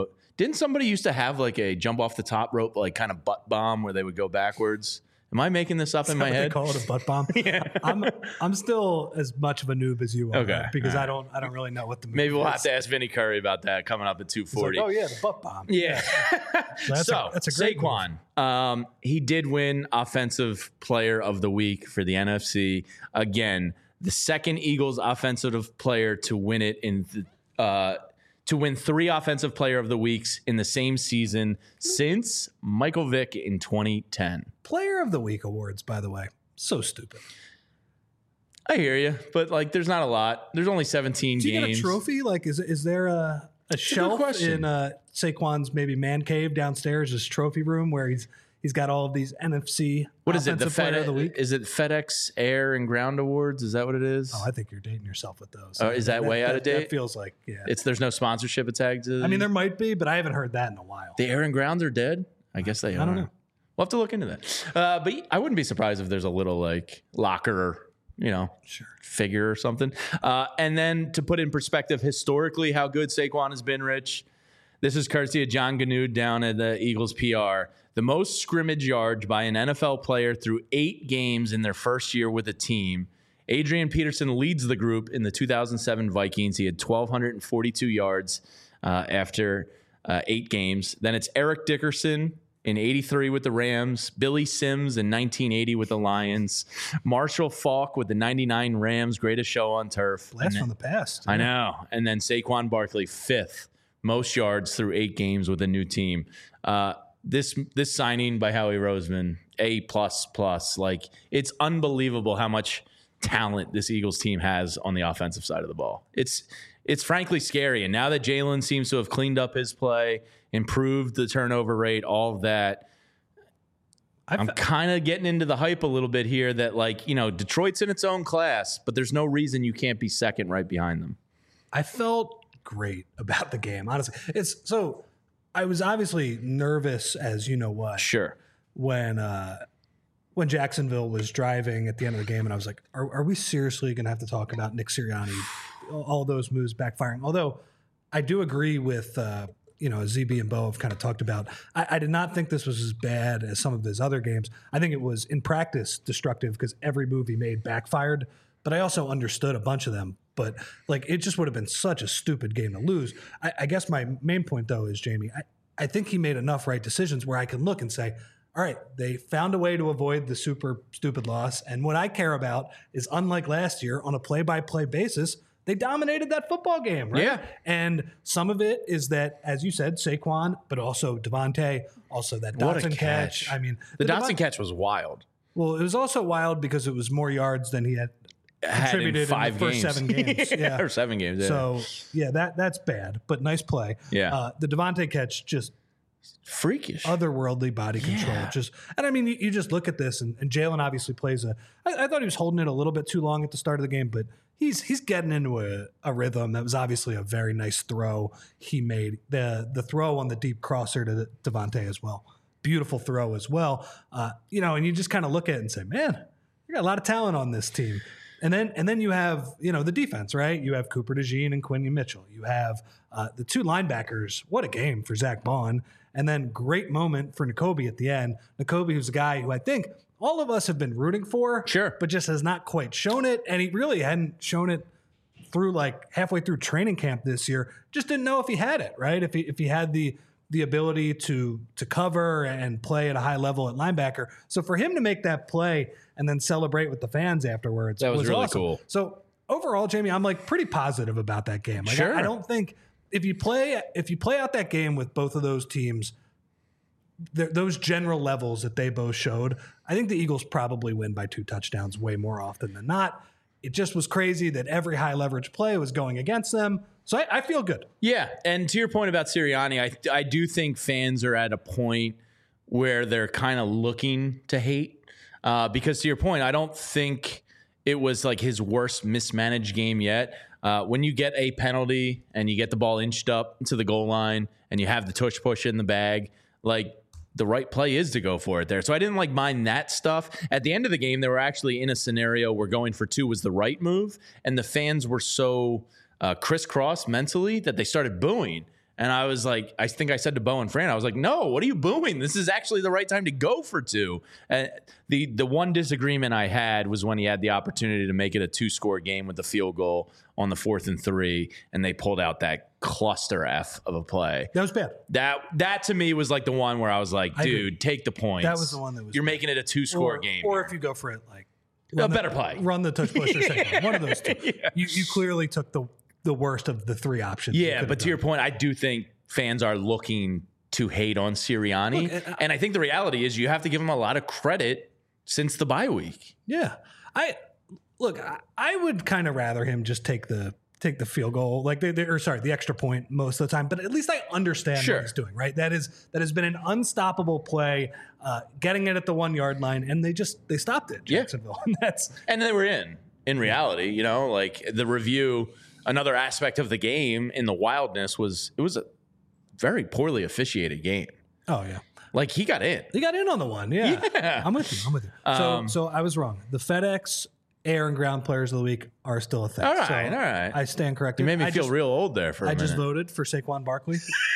Speaker 1: Didn't somebody used to have like a jump off the top rope, like kind of butt bomb where they would go backwards? Am I making this up in my head?
Speaker 2: They call it a butt bomb. Yeah. I'm still as much of a noob as you are.
Speaker 1: Okay.
Speaker 2: Because I don't really know what the move
Speaker 1: Maybe we'll
Speaker 2: is.
Speaker 1: have to ask Vinny Curry about that coming up at 240.
Speaker 2: Like, oh yeah, the butt bomb.
Speaker 1: Yeah.
Speaker 2: That's a great
Speaker 1: Saquon, he did win Offensive Player of the Week for the NFC. Again, the second Eagles offensive player to win it to win 3 Offensive Player of the Weeks in the same season since Michael Vick in 2010.
Speaker 2: Player of the Week awards, by the way. So stupid.
Speaker 1: I hear you, but like, there's not a lot. There's only 17
Speaker 2: Do you
Speaker 1: games.
Speaker 2: get a trophy? Like, is there a shelf in Saquon's maybe man cave downstairs, his trophy room, where he's got all of these NFC?
Speaker 1: What is it? The
Speaker 2: Player of the Week?
Speaker 1: Is it FedEx Air and Ground Awards? Is that what it is?
Speaker 2: Oh, I think you're dating yourself with those.
Speaker 1: Oh, is that way out of date?
Speaker 2: That feels like, yeah.
Speaker 1: There's no sponsorship attached to it.
Speaker 2: I mean, there might be, but I haven't heard that in a while.
Speaker 1: The Air and Grounds are dead? I guess they are.
Speaker 2: I don't know.
Speaker 1: We'll have to look into that. But I wouldn't be surprised if there's a little like locker, figure or something. And then to put in perspective historically how good Saquon has been, Rich, this is courtesy of John Ganud down at the Eagles PR. The most scrimmage yards by an NFL player through 8 games in their first year with a team. Adrian Peterson leads the group in the 2007 Vikings. He had 1,242 yards after 8 games. Then it's Eric Dickerson in 83 with the Rams, Billy Sims in 1980 with the Lions, Marshall Faulk with the 99 Rams, greatest show on turf.
Speaker 2: Blast from the past.
Speaker 1: I know. And then Saquon Barkley, 5th most yards through 8 games with a new team. This signing by Howie Roseman, A++. Like, it's unbelievable how much talent this Eagles team has on the offensive side of the ball. It's frankly scary. And now that Jalen seems to have cleaned up his play, improved the turnover rate, all of that, I'm kind of getting into the hype a little bit here that, like, Detroit's in its own class, but there's no reason you can't be second right behind them.
Speaker 2: I felt great about the game, honestly. I was obviously nervous, as you know what.
Speaker 1: Sure.
Speaker 2: When Jacksonville was driving at the end of the game, and I was like, are we seriously going to have to talk about Nick Sirianni, all those moves backfiring? Although I do agree with, ZB and Bo have kind of talked about, I did not think this was as bad as some of his other games. I think it was, in practice, destructive because every move he made backfired, but I also understood a bunch of them. But like, it just would have been such a stupid game to lose. I guess my main point, though, is, Jamie, I think he made enough right decisions where I can look and say, all right, they found a way to avoid the super stupid loss. And what I care about is, unlike last year, on a play-by-play basis, they dominated that football game, right?
Speaker 1: Yeah.
Speaker 2: And some of it is that, as you said, Saquon, but also Devontae, also that Dotson catch. I mean,
Speaker 1: the Dotson catch was wild.
Speaker 2: Well, it was also wild because it was more yards than he had contributed in the first 7 games. Yeah.
Speaker 1: Or 7 games. Yeah.
Speaker 2: So, yeah, that's bad, but nice play.
Speaker 1: Yeah.
Speaker 2: The Devontae catch, just
Speaker 1: freakish,
Speaker 2: otherworldly body control. And I mean, you just look at this, and Jalen obviously plays I thought he was holding it a little bit too long at the start of the game, but he's getting into a rhythm. That was obviously a very nice throw he made. The throw on the deep crosser to Devontae as well. Beautiful throw as well. And you just kind of look at it and say, man, you got a lot of talent on this team. And then you have, the defense, right? You have Cooper DeJean and Quinyon Mitchell. You have the 2 linebackers. What a game for Zach Bond. And then great moment for Nakobe at the end. Nakobe, who's a guy who I think all of us have been rooting for.
Speaker 1: Sure.
Speaker 2: But just has not quite shown it. And he really hadn't shown it through like halfway through training camp this year. Just didn't know if he had it, right? If he had the ability to cover and play at a high level at linebacker. So for him to make that play and then celebrate with the fans afterwards,
Speaker 1: that was really
Speaker 2: awesome.
Speaker 1: Cool.
Speaker 2: So overall, Jamie, I'm like pretty positive about that game. Like,
Speaker 1: sure.
Speaker 2: I don't think if you play out that game with both of those teams, those general levels that they both showed, I think the Eagles probably win by 2 touchdowns way more often than not. It just was crazy that every high leverage play was going against them. So I feel good.
Speaker 1: Yeah, and to your point about Sirianni, I do think fans are at a point where they're kind of looking to hate because, to your point, I don't think it was like his worst mismanaged game yet. When you get a penalty and you get the ball inched up to the goal line and you have the tush push in the bag, like, the right play is to go for it there. So I didn't mind that stuff. At the end of the game, they were actually in a scenario where going for 2 was the right move, and the fans were so crisscross mentally that they started booing. And I was like, I think I said to Bo and Fran, I was like, no, what are you booing? This is actually the right time to go for 2. And the one disagreement I had was when he had the opportunity to make it a 2-score game with the field goal on the 4th and 3, and they pulled out that cluster F of a play.
Speaker 2: That was bad.
Speaker 1: That to me was like the one where I was like, dude, take the points.
Speaker 2: That was the one that was.
Speaker 1: You're making it a 2-score game.
Speaker 2: Or if you go for it, like
Speaker 1: a better play.
Speaker 2: Run the touch push or second. One of those two. Yeah. You clearly took the worst of the 3 options.
Speaker 1: Yeah, but to your point, I do think fans are looking to hate on Sirianni. Look, and I think the reality is you have to give him a lot of credit since the bye week.
Speaker 2: Yeah. I would kind of rather him just take the field goal, like the extra point most of the time. But at least I understand what he's doing, right? That has been an unstoppable play, getting it at the 1 yard line, and they stopped it, Jacksonville.
Speaker 1: Yeah. And they were in reality, like the review. Another aspect of the game in the wildness was it was a very poorly officiated game.
Speaker 2: Oh yeah.
Speaker 1: Like he got in.
Speaker 2: He got in on the one. Yeah. I'm with you. So I was wrong. The FedEx air and ground players of the week are still a thing.
Speaker 1: All right.
Speaker 2: I stand corrected.
Speaker 1: You made me feel real old there for a minute.
Speaker 2: I just voted for Saquon Barkley.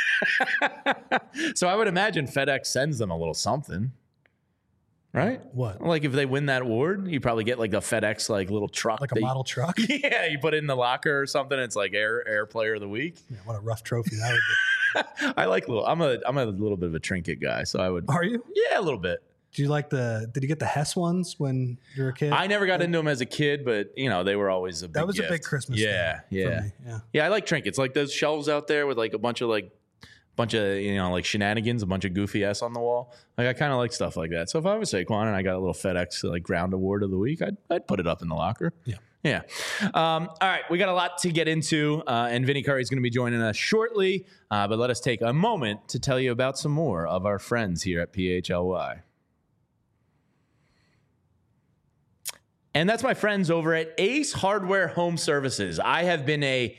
Speaker 1: So I would imagine FedEx sends them a little something. Right?
Speaker 2: What?
Speaker 1: Like if they win that award, you probably get like a FedEx like little truck.
Speaker 2: Like a model truck?
Speaker 1: Yeah, you put it in the locker or something. It's like air player of the week.
Speaker 2: Yeah, what a rough trophy that would
Speaker 1: be. I like I'm a little bit of a trinket guy, so I would.
Speaker 2: Are you?
Speaker 1: Yeah, a little bit.
Speaker 2: Do you like did you get the Hess ones when you were a kid?
Speaker 1: I never got into them as a kid, but they were always a big
Speaker 2: That was
Speaker 1: gift.
Speaker 2: a big Christmas thing for me.
Speaker 1: Yeah, I like trinkets. Like those shelves out there with like a bunch of like shenanigans, a bunch of goofy S on the wall. Like I kind of like stuff like that. So if I was Saquon and I got a little FedEx like ground award of the week, I'd put it up in the locker. Yeah. All right, we got a lot to get into, and Vinny Curry is going to be joining us shortly. But let us take a moment to tell you about some more of our friends here at PHLY. And that's my friends over at Ace Hardware Home Services. I have been a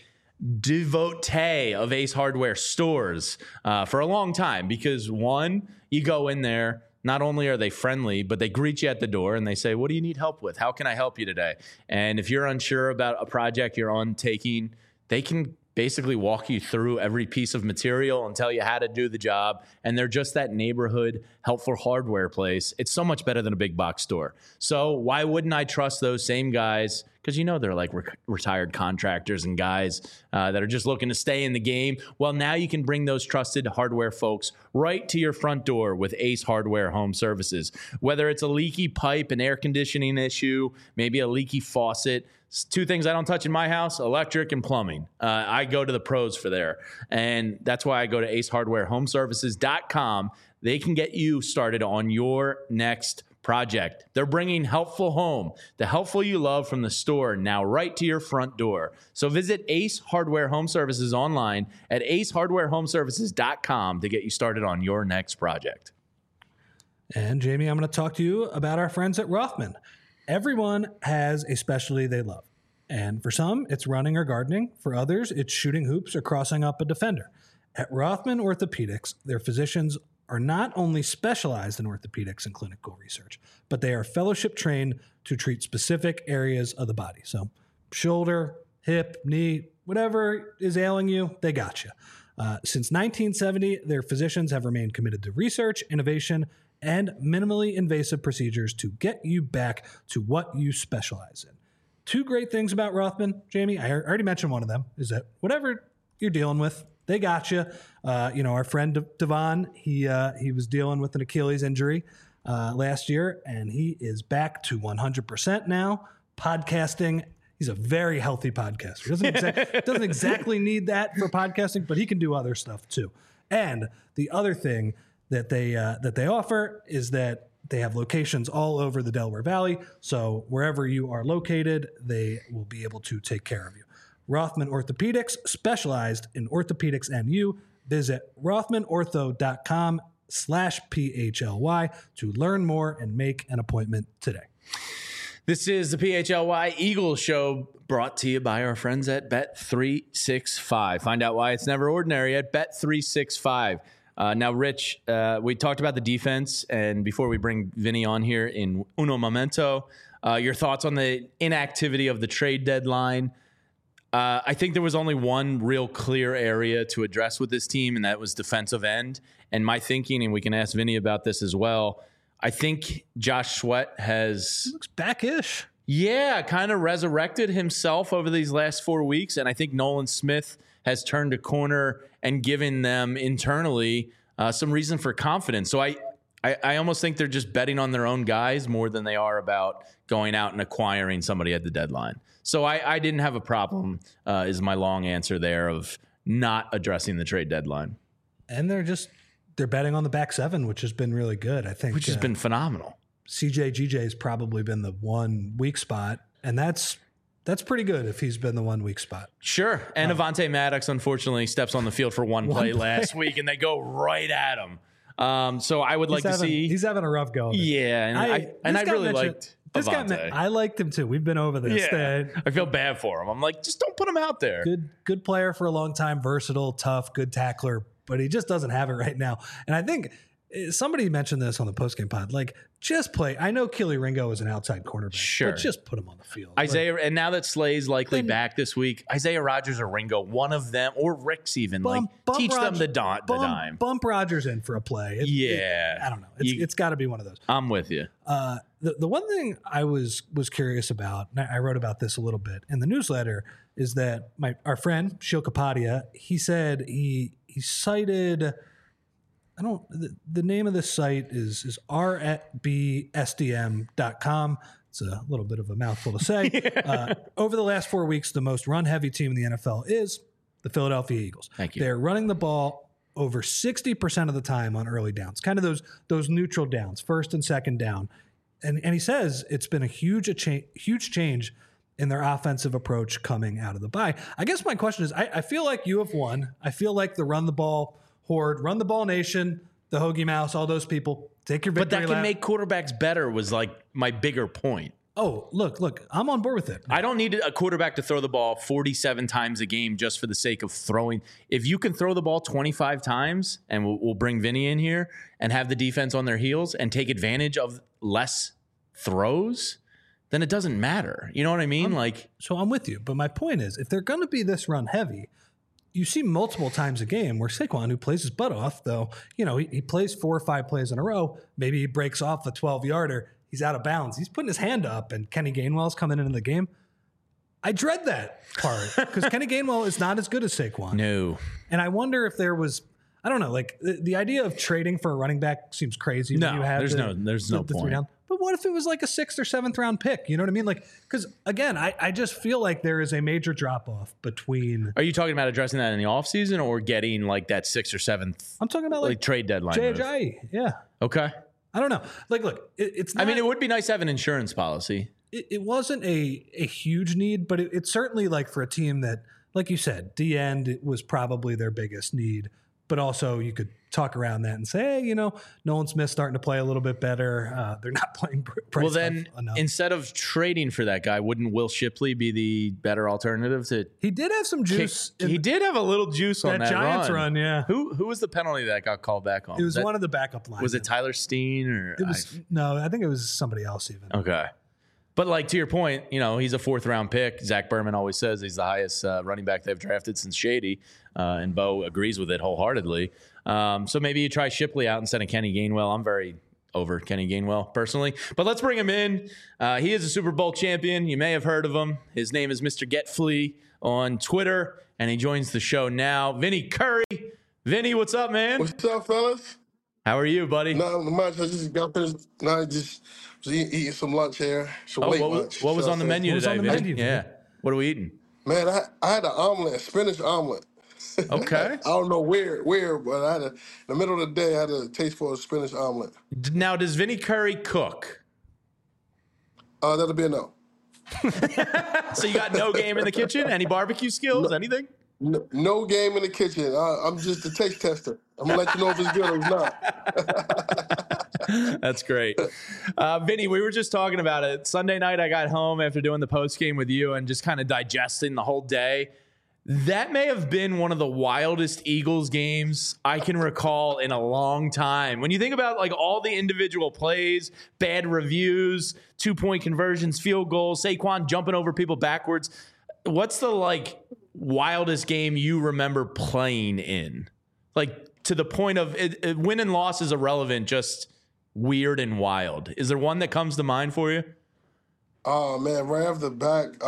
Speaker 1: devotee of Ace Hardware stores for a long time because, one, you go in there, not only are they friendly, but they greet you at the door and they say, what do you need help with? How can I help you today? And if you're unsure about a project you're undertaking, they can basically walk you through every piece of material and tell you how to do the job. And they're just that neighborhood helpful hardware place. It's so much better than a big box store. So why wouldn't I trust those same guys? Because they're like retired contractors and guys that are just looking to stay in the game. Well, now you can bring those trusted hardware folks right to your front door with Ace Hardware Home Services. Whether it's a leaky pipe, an air conditioning issue, maybe a leaky faucet. 2 things I don't touch in my house, electric and plumbing. I go to the pros for there. And that's why I go to acehardwarehomeservices.com. They can get you started on your next project. They're bringing helpful home, the helpful you love from the store, now right to your front door. So visit Ace Hardware Home Services online at acehardwarehomeservices.com to get you started on your next project.
Speaker 2: And Jamie, I'm going to talk to you about our friends at Rothman. Everyone has a specialty they love. And for some, it's running or gardening. For others, it's shooting hoops or crossing up a defender. At Rothman Orthopedics, their physicians are not only specialized in orthopedics and clinical research, but they are fellowship trained to treat specific areas of the body. So shoulder, hip, knee, whatever is ailing you, they got you. Since 1970, their physicians have remained committed to research, innovation, and minimally invasive procedures to get you back to what you specialize in. 2 great things about Rothman, Jamie. I already mentioned one of them, is that whatever you're dealing with, they got you. Our friend Devon, he was dealing with an Achilles injury last year, and he is back to 100% now. Podcasting, he's a very healthy podcaster. Doesn't exactly need that for podcasting, but he can do other stuff too. And the other thing that they offer is that they have locations all over the Delaware Valley. So wherever you are located, they will be able to take care of you. Rothman Orthopedics, specialized in orthopedics and you. Visit rothmanortho.com/PHLY to learn more and make an appointment today.
Speaker 1: This is the PHLY Eagles Show, brought to you by our friends at Bet365. Find out why it's never ordinary at Bet365. Now, Rich, we talked about the defense, and before we bring Vinny on here in uno momento, your thoughts on the inactivity of the trade deadline. I think there was only one real clear area to address with this team, and that was defensive end. And my thinking, and we can ask Vinny about this as well, I think Josh Sweat
Speaker 2: He looks back-ish.
Speaker 1: kind of resurrected himself over these last 4 weeks. And I think Nolan Smith has turned a corner and given them internally some reason for confidence. So I almost think they're just betting on their own guys more than they are about going out and acquiring somebody at the deadline. So I didn't have a problem, is my long answer there, of not addressing the trade deadline.
Speaker 2: And they're betting on the back seven, which has been really good, I think.
Speaker 1: Which has been phenomenal.
Speaker 2: CJ GJ has probably been the one weak spot, and that's pretty good if he's been the one weak spot.
Speaker 1: Sure. And Avonte Maddox, unfortunately, steps on the field for one play last week, and they go right at him. So I would to see.
Speaker 2: He's having a rough go.
Speaker 1: Yeah, and I really liked Avonte.
Speaker 2: I liked him too. We've been over this.
Speaker 1: Yeah, I feel bad for him. I'm like, just don't put him out there.
Speaker 2: Good player for a long time, versatile, tough, good tackler, but he just doesn't have it right now. And I think somebody mentioned this on the postgame pod. Like, just play. I know Kelee Ringo is an outside cornerback,
Speaker 1: sure,
Speaker 2: but just put him on the field.
Speaker 1: Isaiah, and now that Slay's likely back this week, Isaiah Rodgers or Ringo, one of them, or Ricks even, teach them the dime.
Speaker 2: Bump Rodgers in for a play. I don't know. It's got to be one of those.
Speaker 1: I'm with you.
Speaker 2: The one thing I was curious about, and I wrote about this a little bit in the newsletter, is that our friend Shil Kapadia, he said he cited. The name of this site is r@bsdm.com. It's a little bit of a mouthful to say. Over the last 4 weeks, the most run-heavy team in the NFL is the Philadelphia Eagles.
Speaker 1: Thank you.
Speaker 2: They're running the ball over 60% of the time on early downs, kind of those neutral downs, first and second down. And he says it's been a huge change in their offensive approach coming out of the bye. I guess my question is, I feel like you have won. I feel like the run the ball horde, run the ball nation, the Hoagie Mouse, all those people, take your victory
Speaker 1: lap. But that can make quarterbacks better was like my bigger point.
Speaker 2: Oh, look, I'm on board with it.
Speaker 1: I don't need a quarterback to throw the ball 47 times a game just for the sake of throwing. If you can throw the ball 25 times, and we'll bring Vinny in here, and have the defense on their heels and take advantage of less throws, then it doesn't matter. You know what I mean?
Speaker 2: So I'm with you. But my point is, if they're going to be this run heavy, you see multiple times a game where Saquon, who plays his butt off, though, he plays 4 or 5 plays in a row. Maybe he breaks off a 12-yarder. He's out of bounds. He's putting his hand up, and Kenny Gainwell's coming into the game. I dread that part because Kenny Gainwell is not as good as Saquon.
Speaker 1: No.
Speaker 2: And I wonder if there was, I don't know, like the idea of trading for a running back seems crazy.
Speaker 1: No,
Speaker 2: when you have
Speaker 1: there's no point.
Speaker 2: But what if it was like a 6th or 7th round pick? You know what I mean? Like, because again, I just feel like there is a major drop off between.
Speaker 1: Are you talking about addressing that in the offseason or getting like that 6th or 7th?
Speaker 2: I'm talking about like
Speaker 1: trade deadline.
Speaker 2: Jay. Yeah.
Speaker 1: Okay.
Speaker 2: I don't know. Like, look, it's not.
Speaker 1: I mean, it would be nice to have an insurance policy.
Speaker 2: It wasn't a huge need, but it's certainly like for a team that, like you said, the end was probably their biggest need. But also you could talk around that and say, hey, Nolan Smith's starting to play a little bit better. They're not playing Bryce
Speaker 1: Well, then
Speaker 2: enough.
Speaker 1: Instead of trading for that guy, wouldn't Will Shipley be the better alternative to?
Speaker 2: He did have some juice.
Speaker 1: He did have a little juice on that
Speaker 2: Giants run. Yeah.
Speaker 1: Who was the penalty that got called back on?
Speaker 2: It was one of the backup lines.
Speaker 1: Was it Tyler Steen or?
Speaker 2: It was no. I think it was somebody else even.
Speaker 1: Okay. But like to your point, he's a 4th round pick. Zach Berman always says he's the highest running back they've drafted since Shady, and Bo agrees with it wholeheartedly. So maybe you try Shipley out instead of Kenny Gainwell. I'm very over Kenny Gainwell personally, but let's bring him in. He is a Super Bowl champion. You may have heard of him. His name is Mr. Get Flea on Twitter, and he joins the show now. Vinny Curry. Vinny, what's up, man?
Speaker 4: What's up, fellas?
Speaker 1: How are you, buddy?
Speaker 4: Not much. I just got finished. No, I just was eating some lunch here.
Speaker 1: What was on the menu today, Vinny? Yeah. What are we eating?
Speaker 4: Man, I had an omelet, a spinach omelet.
Speaker 1: Okay.
Speaker 4: I don't know where, but I had in the middle of the day, I had a taste for a spinach omelet.
Speaker 1: Now, does Vinny Curry cook?
Speaker 4: That'll be a no.
Speaker 1: So you got no game in the kitchen? Any barbecue skills? Anything?
Speaker 4: No game in the kitchen. I'm just a taste tester. I'm going to let you know if it's good or not.
Speaker 1: That's great. Vinny, we were just talking about it. Sunday night, I got home after doing the post game with you and just kind of digesting the whole day. That may have been one of the wildest Eagles games I can recall in a long time. When you think about like all the individual plays, bad reviews, 2-point conversions, field goals, Saquon jumping over people backwards, what's the like wildest game you remember playing in? Like to the point of win and loss is irrelevant, just weird and wild. Is there one that comes to mind for you?
Speaker 4: Oh man, right off the back.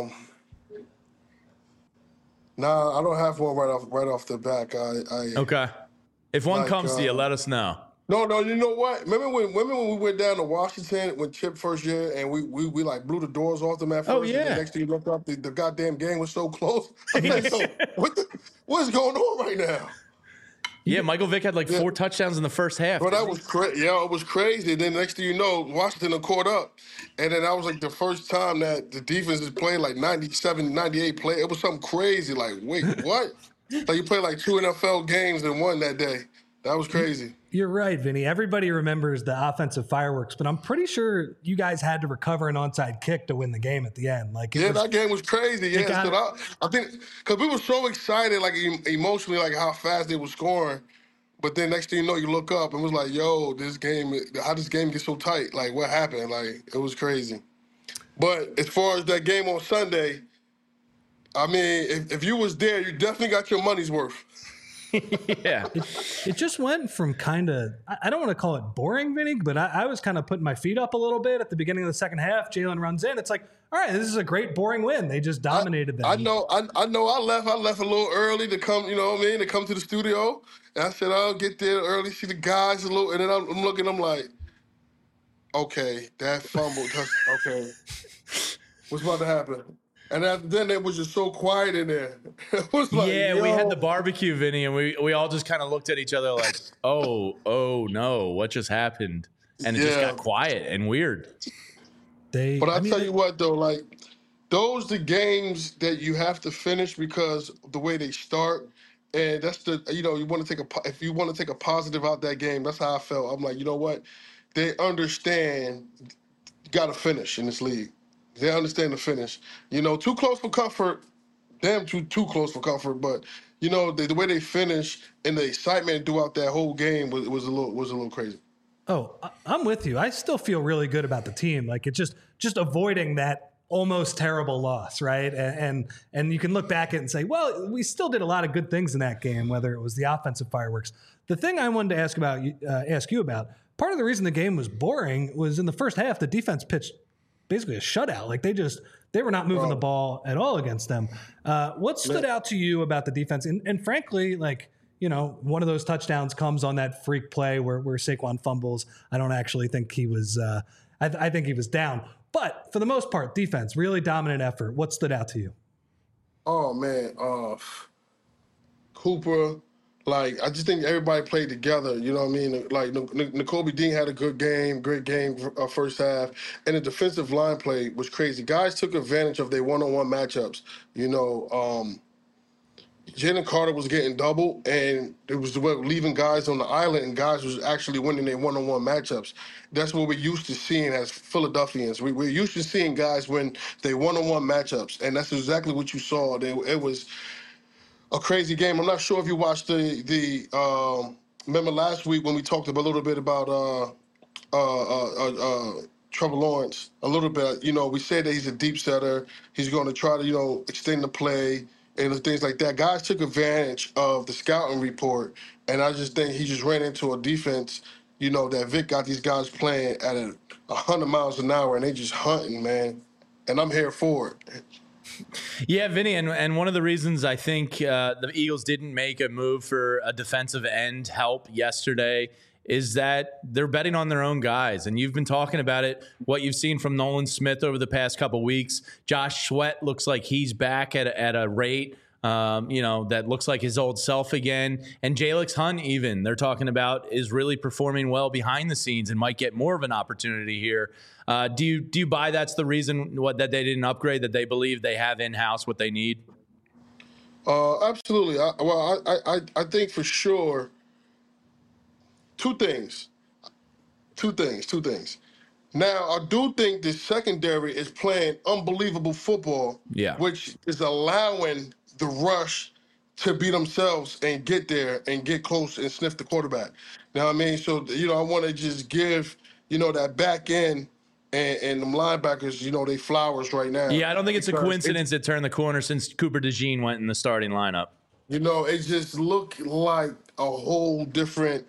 Speaker 4: Nah, I don't have one right off the back.
Speaker 1: Okay. If one
Speaker 4: Like,
Speaker 1: comes to you, let us know.
Speaker 4: No, you know what? Remember when we went down to Washington when Chip first year and we like blew the doors off them at first,
Speaker 1: Oh,
Speaker 4: and
Speaker 1: yeah.
Speaker 4: then next thing you look up, the goddamn game was so close. I'm like, yo, what's going on right now?
Speaker 1: Yeah, Michael Vick had like 4 touchdowns in the first half.
Speaker 4: Bro, that was crazy. Yeah, it was crazy. And then next thing you know, Washington had caught up. And then that was like the first time that the defense is playing like 97, 98 play. It was something crazy. Like, wait, what? Like you played like 2 NFL games and won that day. That was crazy.
Speaker 2: You're right, Vinny. Everybody remembers the offensive fireworks, but I'm pretty sure you guys had to recover an onside kick to win the game at the end. Like,
Speaker 4: That game was crazy. Yeah, so I think because we were so excited, like emotionally, like how fast they were scoring. But then next thing you know, you look up and it was like, yo, how this game get so tight? Like, what happened? Like, it was crazy. But as far as that game on Sunday, I mean, if you was there, you definitely got your money's worth.
Speaker 1: Yeah.
Speaker 2: It just went from kind of, I don't want to call it boring, Vinny, but I was kind of putting my feet up a little bit at the beginning of the second half. Jalen runs in. It's like, all right, this is a great boring win. They just dominated them.
Speaker 4: I know. I left a little early to come, you know what I mean, to come to the studio. And I said, I'll get there early, see the guys a little. And then I'm looking, I'm like, okay, that fumble. Okay. What's about to happen? And then it was just so quiet in there. It was like,
Speaker 1: yeah, we had the barbecue, Vinny, and we all just kind of looked at each other like, oh no, what just happened? And it just got quiet and weird.
Speaker 4: But I'll tell you what, though, like, those the games that you have to finish because the way they start. And that's you want to if you want to take a positive out that game, that's how I felt. I'm like, you know what? They understand you got to finish in this league. They understand the finish. Too close for comfort, damn too close for comfort. But the way they finish and the excitement throughout that whole game was a little crazy.
Speaker 2: Oh, I'm with you. I still feel really good about the team. Like it's just avoiding that almost terrible loss, right? And you can look back at it and say, well, we still did a lot of good things in that game, whether it was the offensive fireworks. The thing I wanted to ask you about, part of the reason the game was boring was in the first half, the defense pitched basically a shutout. Like they were not moving the ball at all against them. What stood out to you about the defense? And frankly, like, one of those touchdowns comes on that freak play where Saquon fumbles. I don't actually think he was, I think he was down. But for the most part, defense, really dominant effort. What stood out to you?
Speaker 4: Oh, man. Cooper, like, I just think everybody played together. You know what I mean? Like, Nakobe Dean had a good game, great game first half. And the defensive line play was crazy. Guys took advantage of their one-on-one matchups. Jalen Carter was getting double, and it was leaving guys on the island, and guys was actually winning their one-on-one matchups. That's what we're used to seeing as Philadelphians. We're used to seeing guys win their one-on-one matchups, and that's exactly what you saw. It was a crazy game. I'm not sure if you watched remember last week when we talked a little bit about Trevor Lawrence a little bit. We said that he's a deep setter. He's going to try to, extend the play and things like that. Guys took advantage of the scouting report, and I just think he just ran into a defense, that Vic got these guys playing at 100 miles an hour, and they just hunting, man. And I'm here for it.
Speaker 1: Yeah, Vinny, and one of the reasons I think the Eagles didn't make a move for a defensive end help yesterday is that they're betting on their own guys. And you've been talking about it, what you've seen from Nolan Smith over the past couple of weeks. Josh Sweat looks like he's back at a rate, that looks like his old self again. And Jalix Hunt even, they're talking about, is really performing well behind the scenes and might get more of an opportunity here. Do you buy that's the reason that they didn't upgrade, that they believe they have in-house what they need?
Speaker 4: Absolutely. I think for sure two things. Now, I do think the secondary is playing unbelievable football, which is allowing the rush to be themselves and get there and get close and sniff the quarterback. Now, I mean, so, I want to just give, that back end and them linebackers, they flowers right now.
Speaker 1: Yeah, I don't think it's a coincidence it turned the corner since Cooper DeJean went in the starting lineup.
Speaker 4: It just looked like a whole different,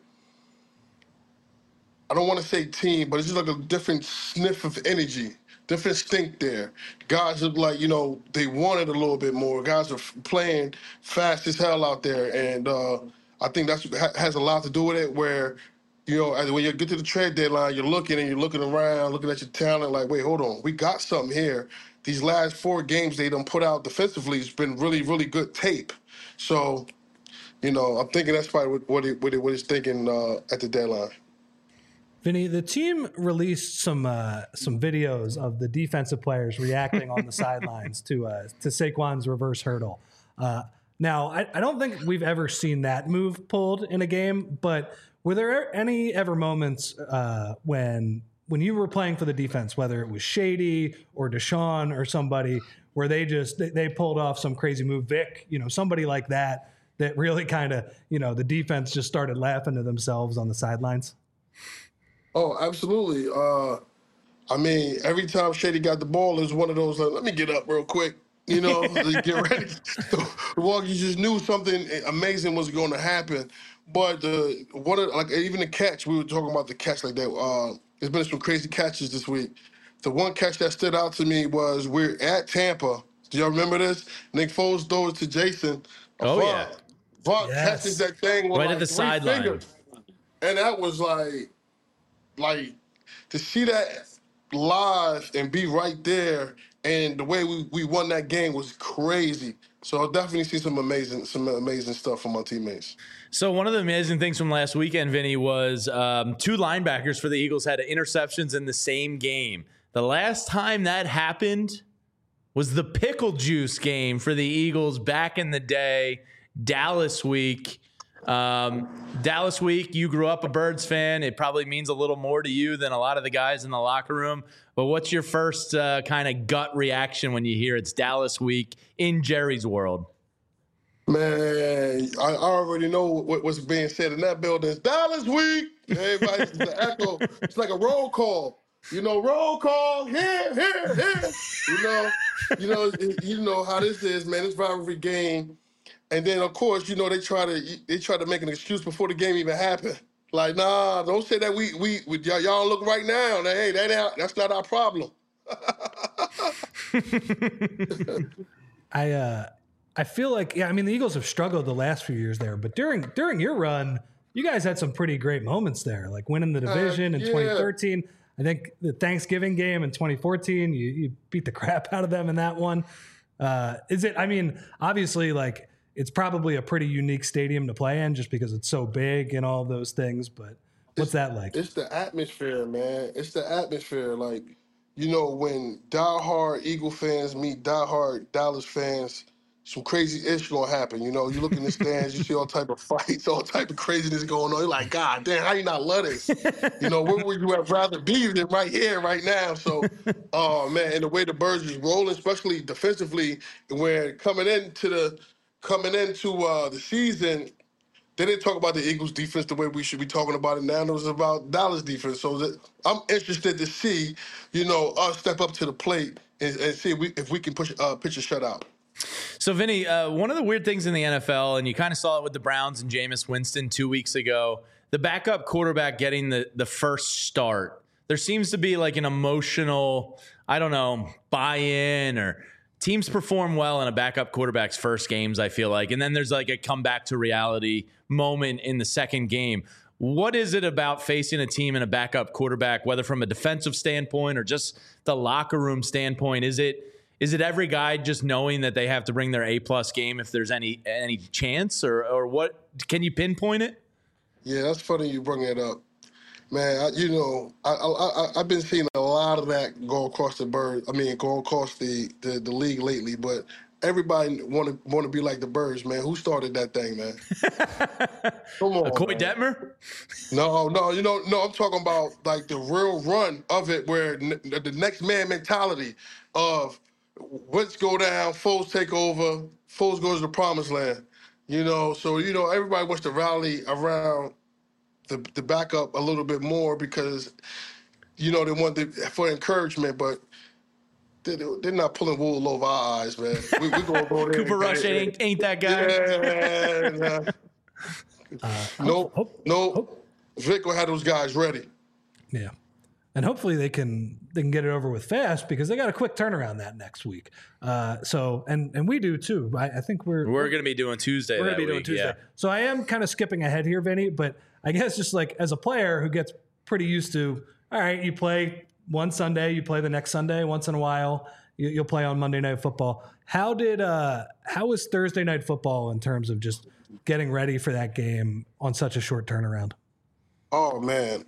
Speaker 4: I don't want to say team, but it's just like a different sniff of energy, different stink there. Guys look like, they wanted a little bit more. Guys are playing fast as hell out there. And I think that's has a lot to do with it, where, when you get to the trade deadline, you're looking around, looking at your talent like, wait, hold on. We got something here. These last 4 games they done put out defensively has been really, really good tape. So, I'm thinking that's probably what he's thinking at the deadline.
Speaker 2: Vinny, the team released some videos of the defensive players reacting on the sidelines to Saquon's reverse hurdle. Now, I don't think we've ever seen that move pulled in a game, but were there any ever moments when you were playing for the defense, whether it was Shady or Deshaun or somebody, where they pulled off some crazy move, Vic, somebody like that really kind of, the defense just started laughing to themselves on the sidelines?
Speaker 4: Oh, absolutely. Every time Shady got the ball, it was one of those, let me get up real quick, get ready. Well, you just knew something amazing was going to happen. But even the catch, we were talking about the catch like that. There's been some crazy catches this week. The one catch that stood out to me was we're at Tampa. Do y'all remember this? Nick Foles throws to Jason.
Speaker 1: Yeah.
Speaker 4: Vaughn catches that thing with
Speaker 1: right at the sideline.
Speaker 4: And that was like to see that live and be right there, and the way we won that game was crazy. So I'll definitely see some amazing stuff from my teammates.
Speaker 1: So one of the amazing things from last weekend, Vinny, was 2 linebackers for the Eagles had interceptions in the same game. The last time that happened was the Pickle Juice game for the Eagles back in the day, Dallas week. Dallas week, you grew up a Birds fan. It probably means a little more to you than a lot of the guys in the locker room. But what's your first kind of gut reaction when you hear it's Dallas week in Jerry's world?
Speaker 4: Man, I already know what's being said in that building. It's Dallas week. Everybody's the echo. It's like a roll call. Roll call here. You know how this is, man. It's rivalry game. And then, of course, they try to make an excuse before the game even happened. Like, nah, don't say that we y'all look right now. Hey, that's not our problem.
Speaker 2: I feel like, the Eagles have struggled the last few years there, but during your run, you guys had some pretty great moments there, like winning the division in 2013. I think the Thanksgiving game in 2014, you beat the crap out of them in that one. Obviously, like, it's probably a pretty unique stadium to play in just because it's so big and all those things. But what's that like?
Speaker 4: It's the atmosphere, man. It's the atmosphere. Like, when diehard Eagle fans meet diehard Dallas fans, some crazy ish gonna happen. You look in the stands, you see all type of fights, all type of craziness going on. You're like, God damn, how you not love this? Where would you have rather be than right here, right now? So, oh man, and the way the Birds is rolling, especially defensively, where coming into the season, they didn't talk about the Eagles defense the way we should be talking about it now. It was about Dallas defense. So I'm interested to see, us step up to the plate and see if we can pitch a shutout.
Speaker 1: So, Vinny, one of the weird things in the NFL, and you kind of saw it with the Browns and Jameis Winston 2 weeks ago, the backup quarterback getting the first start. There seems to be like an emotional, buy-in, or teams perform well in a backup quarterback's first games, I feel like. And then there's like a comeback to reality moment in the second game. What is it about facing a team and a backup quarterback, whether from a defensive standpoint or just the locker room standpoint? Is it every guy just knowing that they have to bring their A-plus game if there's any chance, or what? Can you pinpoint it?
Speaker 4: Yeah, that's funny you bring it up. Man, I've been seeing a lot of that go across the league lately, but everybody want to be like the Birds, man. Who started that thing, man? Come on,
Speaker 1: Coy Detmer?
Speaker 4: No, I'm talking about like the real run of it, where the next man mentality of Wentz go down, Foles take over, Foles goes to the promised land. So everybody wants to rally around the backup a little bit more because they want for encouragement, but they're not pulling wool over our eyes, man. We're going to go there.
Speaker 1: Cooper Rush ain't that guy.
Speaker 4: Yeah. Nope. Vic will have those guys ready.
Speaker 2: Yeah. And hopefully they can get it over with fast because they got a quick turnaround that next week. And we do too. I think we're
Speaker 1: going to be doing Tuesday.
Speaker 2: We're going to be doing Tuesday. Yeah. So I am kind of skipping ahead here, Vinny, but I guess just like as a player who gets pretty used to, all right, you play one Sunday, you play the next Sunday once in a while, you'll play on Monday Night Football. How was Thursday Night Football in terms of just getting ready for that game on such a short turnaround?
Speaker 4: Oh man.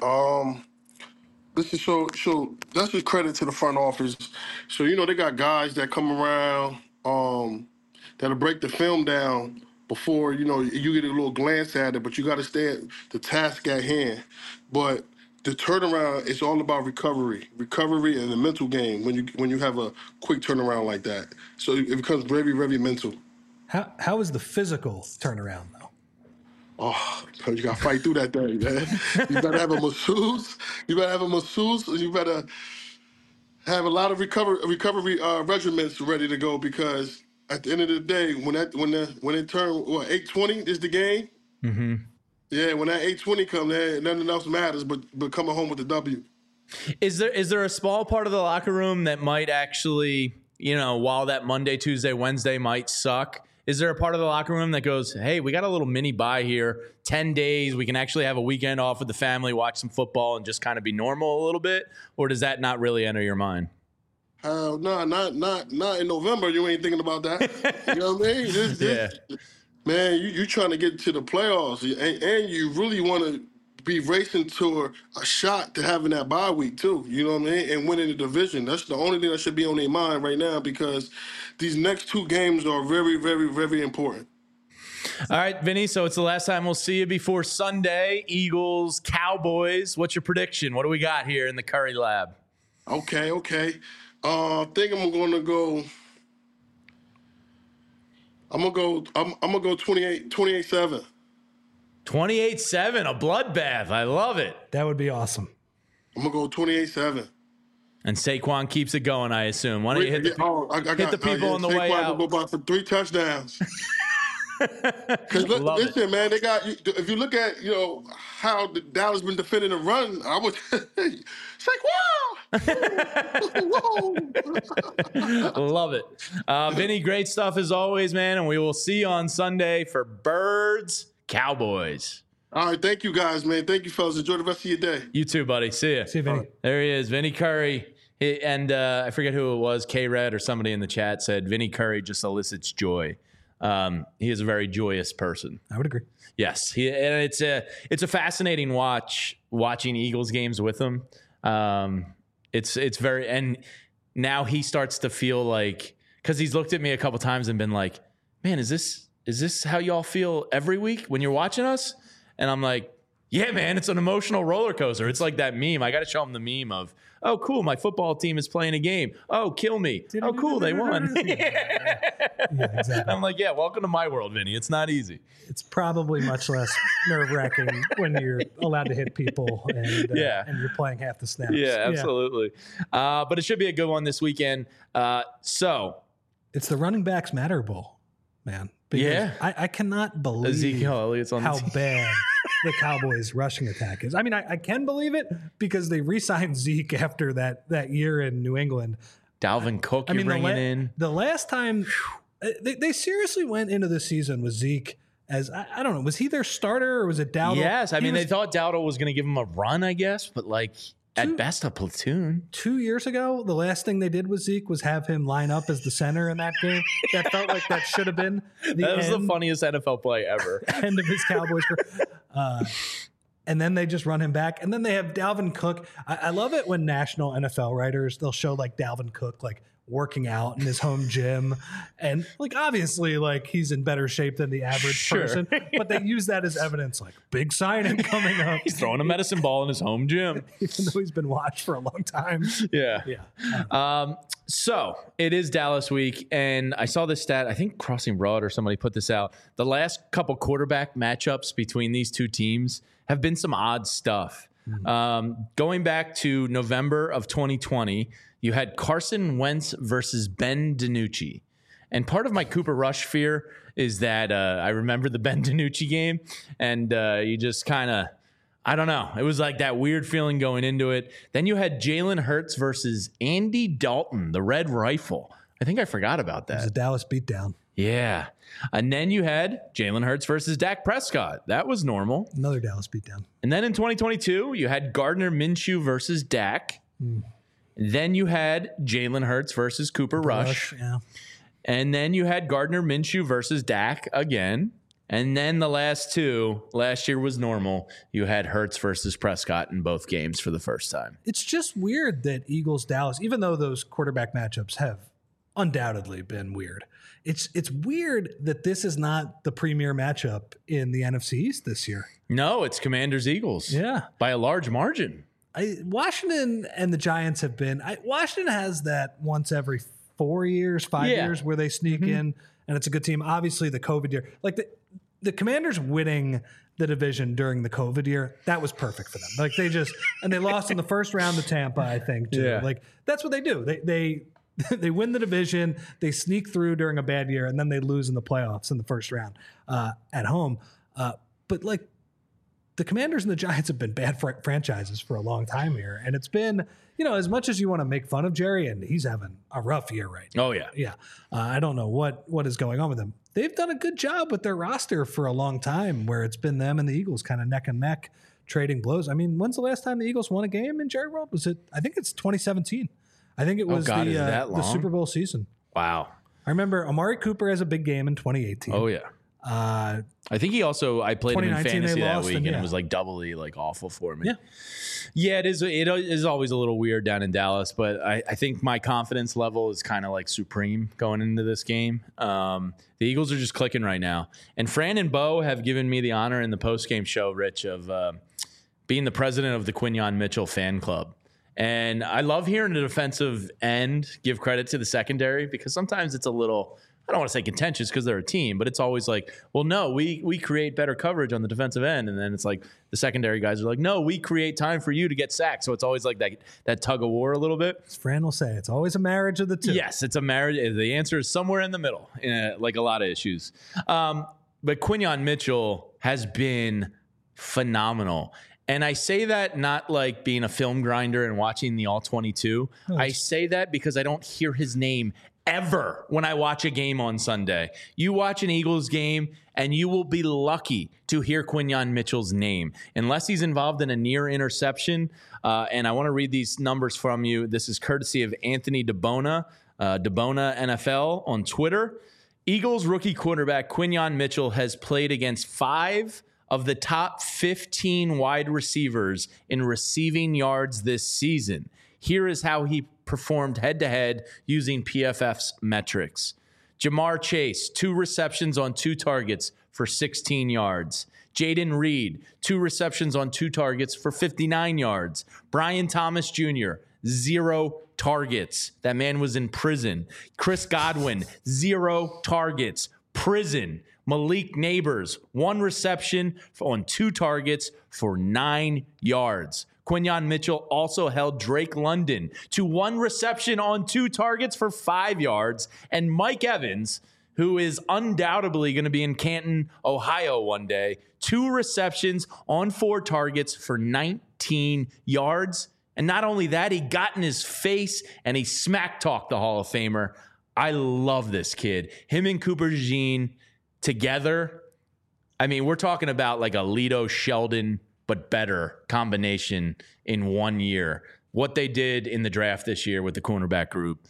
Speaker 4: This is so that's just credit to the front office. So, they got guys that come around that'll break the film down before, you get a little glance at it, but you got to stay at the task at hand. But the turnaround is all about recovery and the mental game when you have a quick turnaround like that. So it becomes very, very mental.
Speaker 2: How is the physical turnaround, though?
Speaker 4: Oh, you got to fight through that thing, man. You better have a masseuse. You better have a lot of recovery regimens ready to go because at the end of the day, when it turns 8:20 is the game.
Speaker 1: Mm-hmm.
Speaker 4: Yeah, when that 8:20 comes, nothing else matters but coming home with the W.
Speaker 1: Is there a small part of the locker room that might actually, while that Monday, Tuesday, Wednesday might suck? Is there a part of the locker room that goes, hey, we got a little mini bye here, 10 days, we can actually have a weekend off with the family, watch some football, and just kind of be normal a little bit? Or does that not really enter your mind?
Speaker 4: No, not in November. You ain't thinking about that. You know what I mean? Man, you trying to get to the playoffs, and you really want to be racing toward a shot to having that bye week too. You know what I mean? And winning the division. That's the only thing that should be on their mind right now because these next two games are very, very, very important.
Speaker 1: All right, Vinny, so it's the last time we'll see you before Sunday. Eagles, Cowboys. What's your prediction? What do we got here in the Curry Lab?
Speaker 4: Okay. I think I'm gonna go 28-7.
Speaker 1: 28-7, a bloodbath. I love it.
Speaker 2: That would be awesome.
Speaker 4: I'm going to go 28-7.
Speaker 1: And Saquon keeps it going, I assume. Why don't you hit the people on the way out?
Speaker 4: Saquon will go by for 3 touchdowns. Because listen, man, they got. If you look at how the Dallas been defending the run, I would Saquon.
Speaker 1: Love it, Vinny. Great stuff as always, man. And we will see you on Sunday for Birds Cowboys.
Speaker 4: All right, thank you guys, man. Thank you, fellas. Enjoy the rest of your day.
Speaker 1: You too, buddy. See ya.
Speaker 2: See you, Vinny. Right.
Speaker 1: There he is, Vinny Curry. And I forget who it was, K-Red or somebody in the chat said Vinny Curry just elicits joy. He is a very joyous person.
Speaker 2: I would agree.
Speaker 1: Yes, and it's a fascinating watching Eagles games with him. It's very, and now he starts to feel like, because he's looked at me a couple times and been like, man, is this how y'all feel every week when you're watching us? And I'm like, yeah, man, it's an emotional roller coaster. It's like that meme. I got to show him the meme of, oh, cool, my football team is playing a game. Oh, kill me. Oh, cool, they won.
Speaker 2: Yeah, exactly.
Speaker 1: I'm like, yeah, welcome to my world, Vinny. It's not easy.
Speaker 2: It's probably much less nerve-wracking when you're allowed to hit people and you're playing half the snaps.
Speaker 1: Yeah, absolutely. Yeah. But it should be a good one this weekend. So
Speaker 2: it's the Running Backs Matter Bowl, man. Because I cannot believe
Speaker 1: Ezekiel Elliott's on
Speaker 2: how bad the Cowboys' rushing attack is. I mean, I can believe it because they re-signed Zeke after that year in New England.
Speaker 1: Dalvin Cook, you're bringing in.
Speaker 2: The last time they seriously went into the season with Zeke as, I don't know, was he their starter or was it Dowdle?
Speaker 1: Yes, they thought Dowdle was going to give him a run, I guess, but at best, a platoon.
Speaker 2: 2 years ago, the last thing they did with Zeke was have him line up as the center in that game. That felt like that should have been
Speaker 1: that was the funniest NFL play ever.
Speaker 2: End of his Cowboys career. And then they just run him back. And then they have Dalvin Cook. I love it when national NFL writers, they'll show Dalvin Cook working out in his home gym. And obviously he's in better shape than the average person. But they use that as evidence, big signing coming up.
Speaker 1: He's throwing a medicine ball in his home gym.
Speaker 2: Even though he's been watched for a long time.
Speaker 1: Yeah. So it is Dallas week. And I saw this stat, I think Crossing Broad or somebody put this out. The last couple quarterback matchups between these two teams have been some odd stuff. Going back to November of 2020, you had Carson Wentz versus Ben DiNucci. And part of my Cooper Rush fear is that I remember the Ben DiNucci game, and you just kind of, I don't know. It was like that weird feeling going into it. Then you had Jalen Hurts versus Andy Dalton, the Red Rifle. I think I forgot about that.
Speaker 2: It was a Dallas beatdown.
Speaker 1: Yeah. And then you had Jalen Hurts versus Dak Prescott. That was normal.
Speaker 2: Another Dallas beatdown.
Speaker 1: And then in 2022, you had Gardner Minshew versus Dak. Then you had Jalen Hurts versus Cooper Rush.
Speaker 2: Yeah.
Speaker 1: And then you had Gardner Minshew versus Dak again. And then the last two, last year was normal. You had Hurts versus Prescott in both games for the first time.
Speaker 2: It's just weird that Eagles-Dallas, even though those quarterback matchups have undoubtedly been weird, it's weird that this is not the premier matchup in the NFC East this year.
Speaker 1: No, it's Commanders-Eagles.
Speaker 2: Yeah.
Speaker 1: By a large margin.
Speaker 2: Washington and the Giants have been – Washington has that once every 4 years, 5 years where they sneak in, and it's a good team. Obviously, the COVID year. Like the Commanders winning the division during the COVID year, that was perfect for them. Like they lost in the first round to Tampa, I think, too.
Speaker 1: Yeah.
Speaker 2: Like that's what they do. They win the division, they sneak through during a bad year, and then they lose in the playoffs in the first round at home. But like the Commanders and the Giants have been bad franchises for a long time here. And it's been, as much as you want to make fun of Jerry, and he's having a rough year right now.
Speaker 1: Oh, yeah.
Speaker 2: Yeah. I don't know what is going on with them. They've done a good job with their roster for a long time where it's been them and the Eagles kind of neck and neck trading blows. I mean, when's the last time the Eagles won a game in Jerry World? I think it's 202017. I think it was the Super Bowl season.
Speaker 1: Wow.
Speaker 2: I remember Amari Cooper has a big game in 2018.
Speaker 1: Oh, yeah. I think he also, I played him in fantasy that week, and it was like doubly like awful for me.
Speaker 2: Yeah.
Speaker 1: Yeah, it is always a little weird down in Dallas, but I think my confidence level is kind of like supreme going into this game. The Eagles are just clicking right now. And Fran and Bo have given me the honor in the post-game show, Rich, of being the president of the Quinyon Mitchell fan club. And I love hearing the defensive end give credit to the secondary because sometimes it's a little, I don't want to say contentious because they're a team, but it's always like, well, no, we create better coverage on the defensive end. And then it's like the secondary guys are like, no, we create time for you to get sacked. So it's always like that tug of war a little bit.
Speaker 2: As Fran will say, it's always a marriage of the two.
Speaker 1: Yes, it's a marriage. The answer is somewhere in the middle, like a lot of issues. But Quinyon Mitchell has been phenomenal. And I say that not like being a film grinder and watching the All-22. I say that because I don't hear his name ever when I watch a game on Sunday. You watch an Eagles game, and you will be lucky to hear Quinyon Mitchell's name, unless he's involved in a near interception. And I want to read these numbers from you. This is courtesy of Anthony DeBona, DeBona NFL on Twitter. Eagles rookie quarterback Quinyon Mitchell has played against 5 of the top 15 wide receivers in receiving yards this season. Here is how he performed head-to-head using PFF's metrics. Jamar Chase, 2 receptions on 2 targets for 16 yards. Jaden Reed, 2 receptions on 2 targets for 59 yards. Brian Thomas Jr., 0 targets. That man was in prison. Chris Godwin, 0 targets. Prison. Malik Neighbors, 1 reception on 2 targets for 9 yards. Quinyon Mitchell also held Drake London to 1 reception on 2 targets for 5 yards. And Mike Evans, who is undoubtedly going to be in Canton, Ohio one day, 2 receptions on 4 targets for 19 yards. And not only that, he got in his face and he smack-talked the Hall of Famer. I love this kid. Him and Cooper DeJean together, I mean, we're talking about like a Lito Sheldon, but better combination in 1 year. What they did in the draft this year with the cornerback group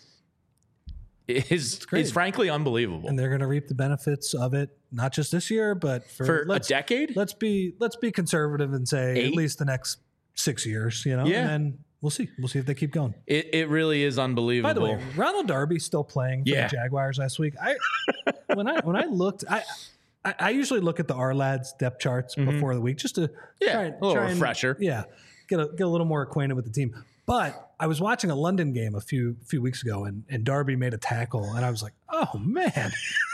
Speaker 1: is frankly unbelievable.
Speaker 2: And they're going to reap the benefits of it, not just this year, but for
Speaker 1: a decade.
Speaker 2: Let's be conservative and say
Speaker 1: 8?
Speaker 2: At least the next 6 years, Yeah. And then we'll see. We'll see if they keep going.
Speaker 1: It really is unbelievable.
Speaker 2: By the way, Ronald Darby's still playing for the Jaguars last week. When I looked, I usually look at the R-Lads depth charts before the week just to try
Speaker 1: a little refresher.
Speaker 2: Get a little more acquainted with the team. But I was watching a London game a few weeks ago, and Darby made a tackle, and I was like, oh man,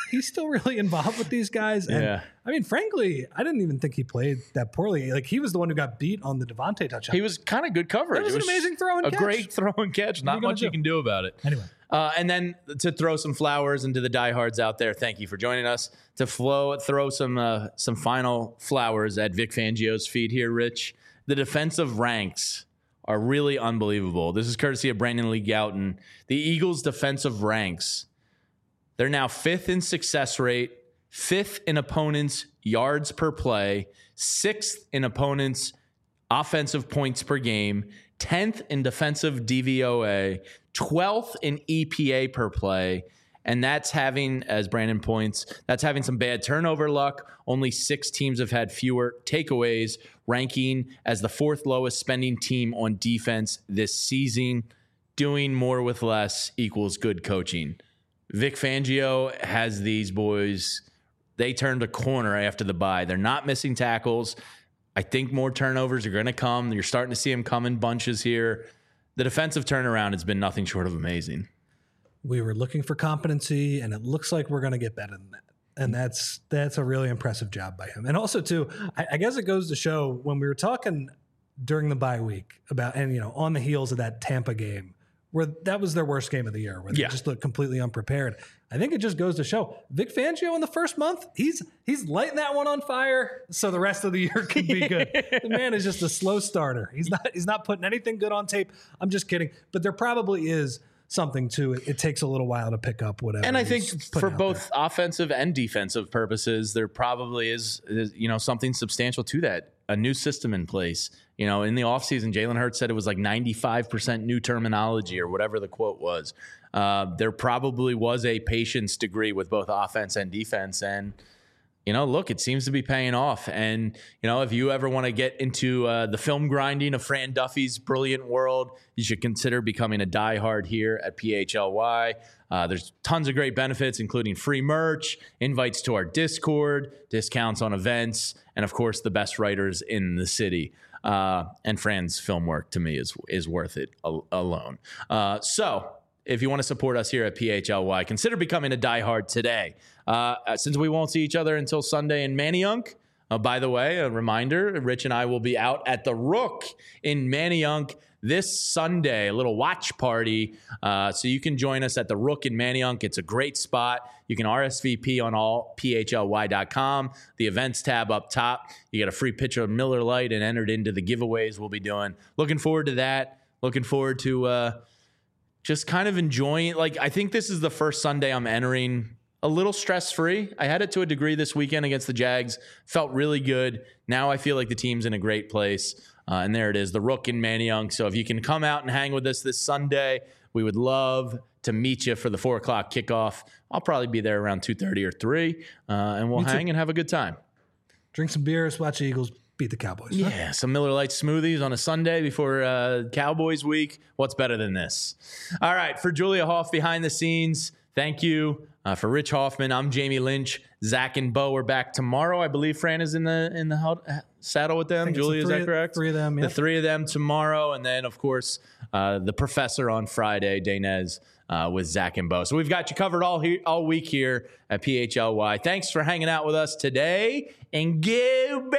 Speaker 2: he's still really involved with these guys. And I mean, frankly, I didn't even think he played that poorly. Like, he was the one who got beat on the Devontae touchdown.
Speaker 1: He was kind of good coverage.
Speaker 2: It was an amazing throw and catch.
Speaker 1: A great throw and catch. Not much you can do about it.
Speaker 2: Anyway.
Speaker 1: And then to throw some flowers into the diehards out there, thank you for joining us. To throw some final flowers at Vic Fangio's feet here, Rich. The defensive ranks are really unbelievable. This is courtesy of Brandon Lee Gouton. The Eagles' defensive ranks, they're now 5th in success rate, 5th in opponents' yards per play, 6th in opponents' offensive points per game, 10th in defensive DVOA, 12th in EPA per play. And that's having, as Brandon points, that's having some bad turnover luck. Only 6 teams have had fewer takeaways, ranking as the 4th lowest spending team on defense this season. Doing more with less equals good coaching. Vic Fangio has these boys. They turned a corner after the bye. They're not missing tackles. I think more turnovers are going to come. You're starting to see them come in bunches here. The defensive turnaround has been nothing short of amazing.
Speaker 2: We were looking for competency, and it looks like we're going to get better than that. And that's a really impressive job by him. And also, too, I guess it goes to show when we were talking during the bye week about, and, you know, on the heels of that Tampa game, where that was their worst game of the year, where they just looked completely unprepared. I think it just goes to show Vic Fangio in the first month, he's lighting that one on fire so the rest of the year can be good. The man is just a slow starter. He's not putting anything good on tape. I'm just kidding. But there probably is something to it. It takes a little while to pick up whatever.
Speaker 1: And I think for both offensive and defensive purposes, there probably is something substantial to that. A new system in place. You know, in the offseason, Jalen Hurts said it was like 95% new terminology or whatever the quote was. There probably was a patience degree with both offense and defense. And, you know, look, it seems to be paying off. And, you know, if you ever want to get into the film grinding of Fran Duffy's brilliant world, you should consider becoming a diehard here at PHLY. There's tons of great benefits, including free merch, invites to our Discord, discounts on events, and, of course, the best writers in the city. And Fran's film work, to me, is worth it alone. So if you want to support us here at PHLY, consider becoming a diehard today. Since we won't see each other until Sunday in Manayunk, by the way, a reminder, Rich and I will be out at the Rook in Manayunk this Sunday, a little watch party. So you can join us at the Rook in Manayunk. It's a great spot. You can RSVP on allphly.com, the events tab up top. You get a free pitcher of Miller Lite and entered into the giveaways we'll be doing. Looking forward to that. Looking forward to just kind of enjoying. Like, I think this is the first Sunday I'm entering a little stress-free. I had it to a degree this weekend against the Jags. Felt really good. Now I feel like the team's in a great place. And there it is, the Rook in Manayunk. So if you can come out and hang with us this Sunday, we would love to meet you for the 4 o'clock kickoff. I'll probably be there around 2:30 or 3, and we'll hang and have a good time.
Speaker 2: Drink some beers, watch the Eagles beat the Cowboys.
Speaker 1: Yeah, some Miller Lite smoothies on a Sunday before Cowboys week. What's better than this? All right, for Julia Hoff behind the scenes, thank you. For Rich Hoffman, I'm Jamie Lynch. Zach and Bo are back tomorrow. I believe Fran is in the saddle with them. Julia, is that correct?
Speaker 2: 3 of them, yeah.
Speaker 1: The 3 of them tomorrow. And then, of course, the professor on Friday, Daynez, with Zach and Bo. So we've got you covered all week here at PHLY. Thanks for hanging out with us today. And go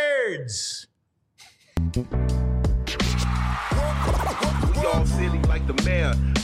Speaker 1: Birds!
Speaker 5: We all silly like the mayor.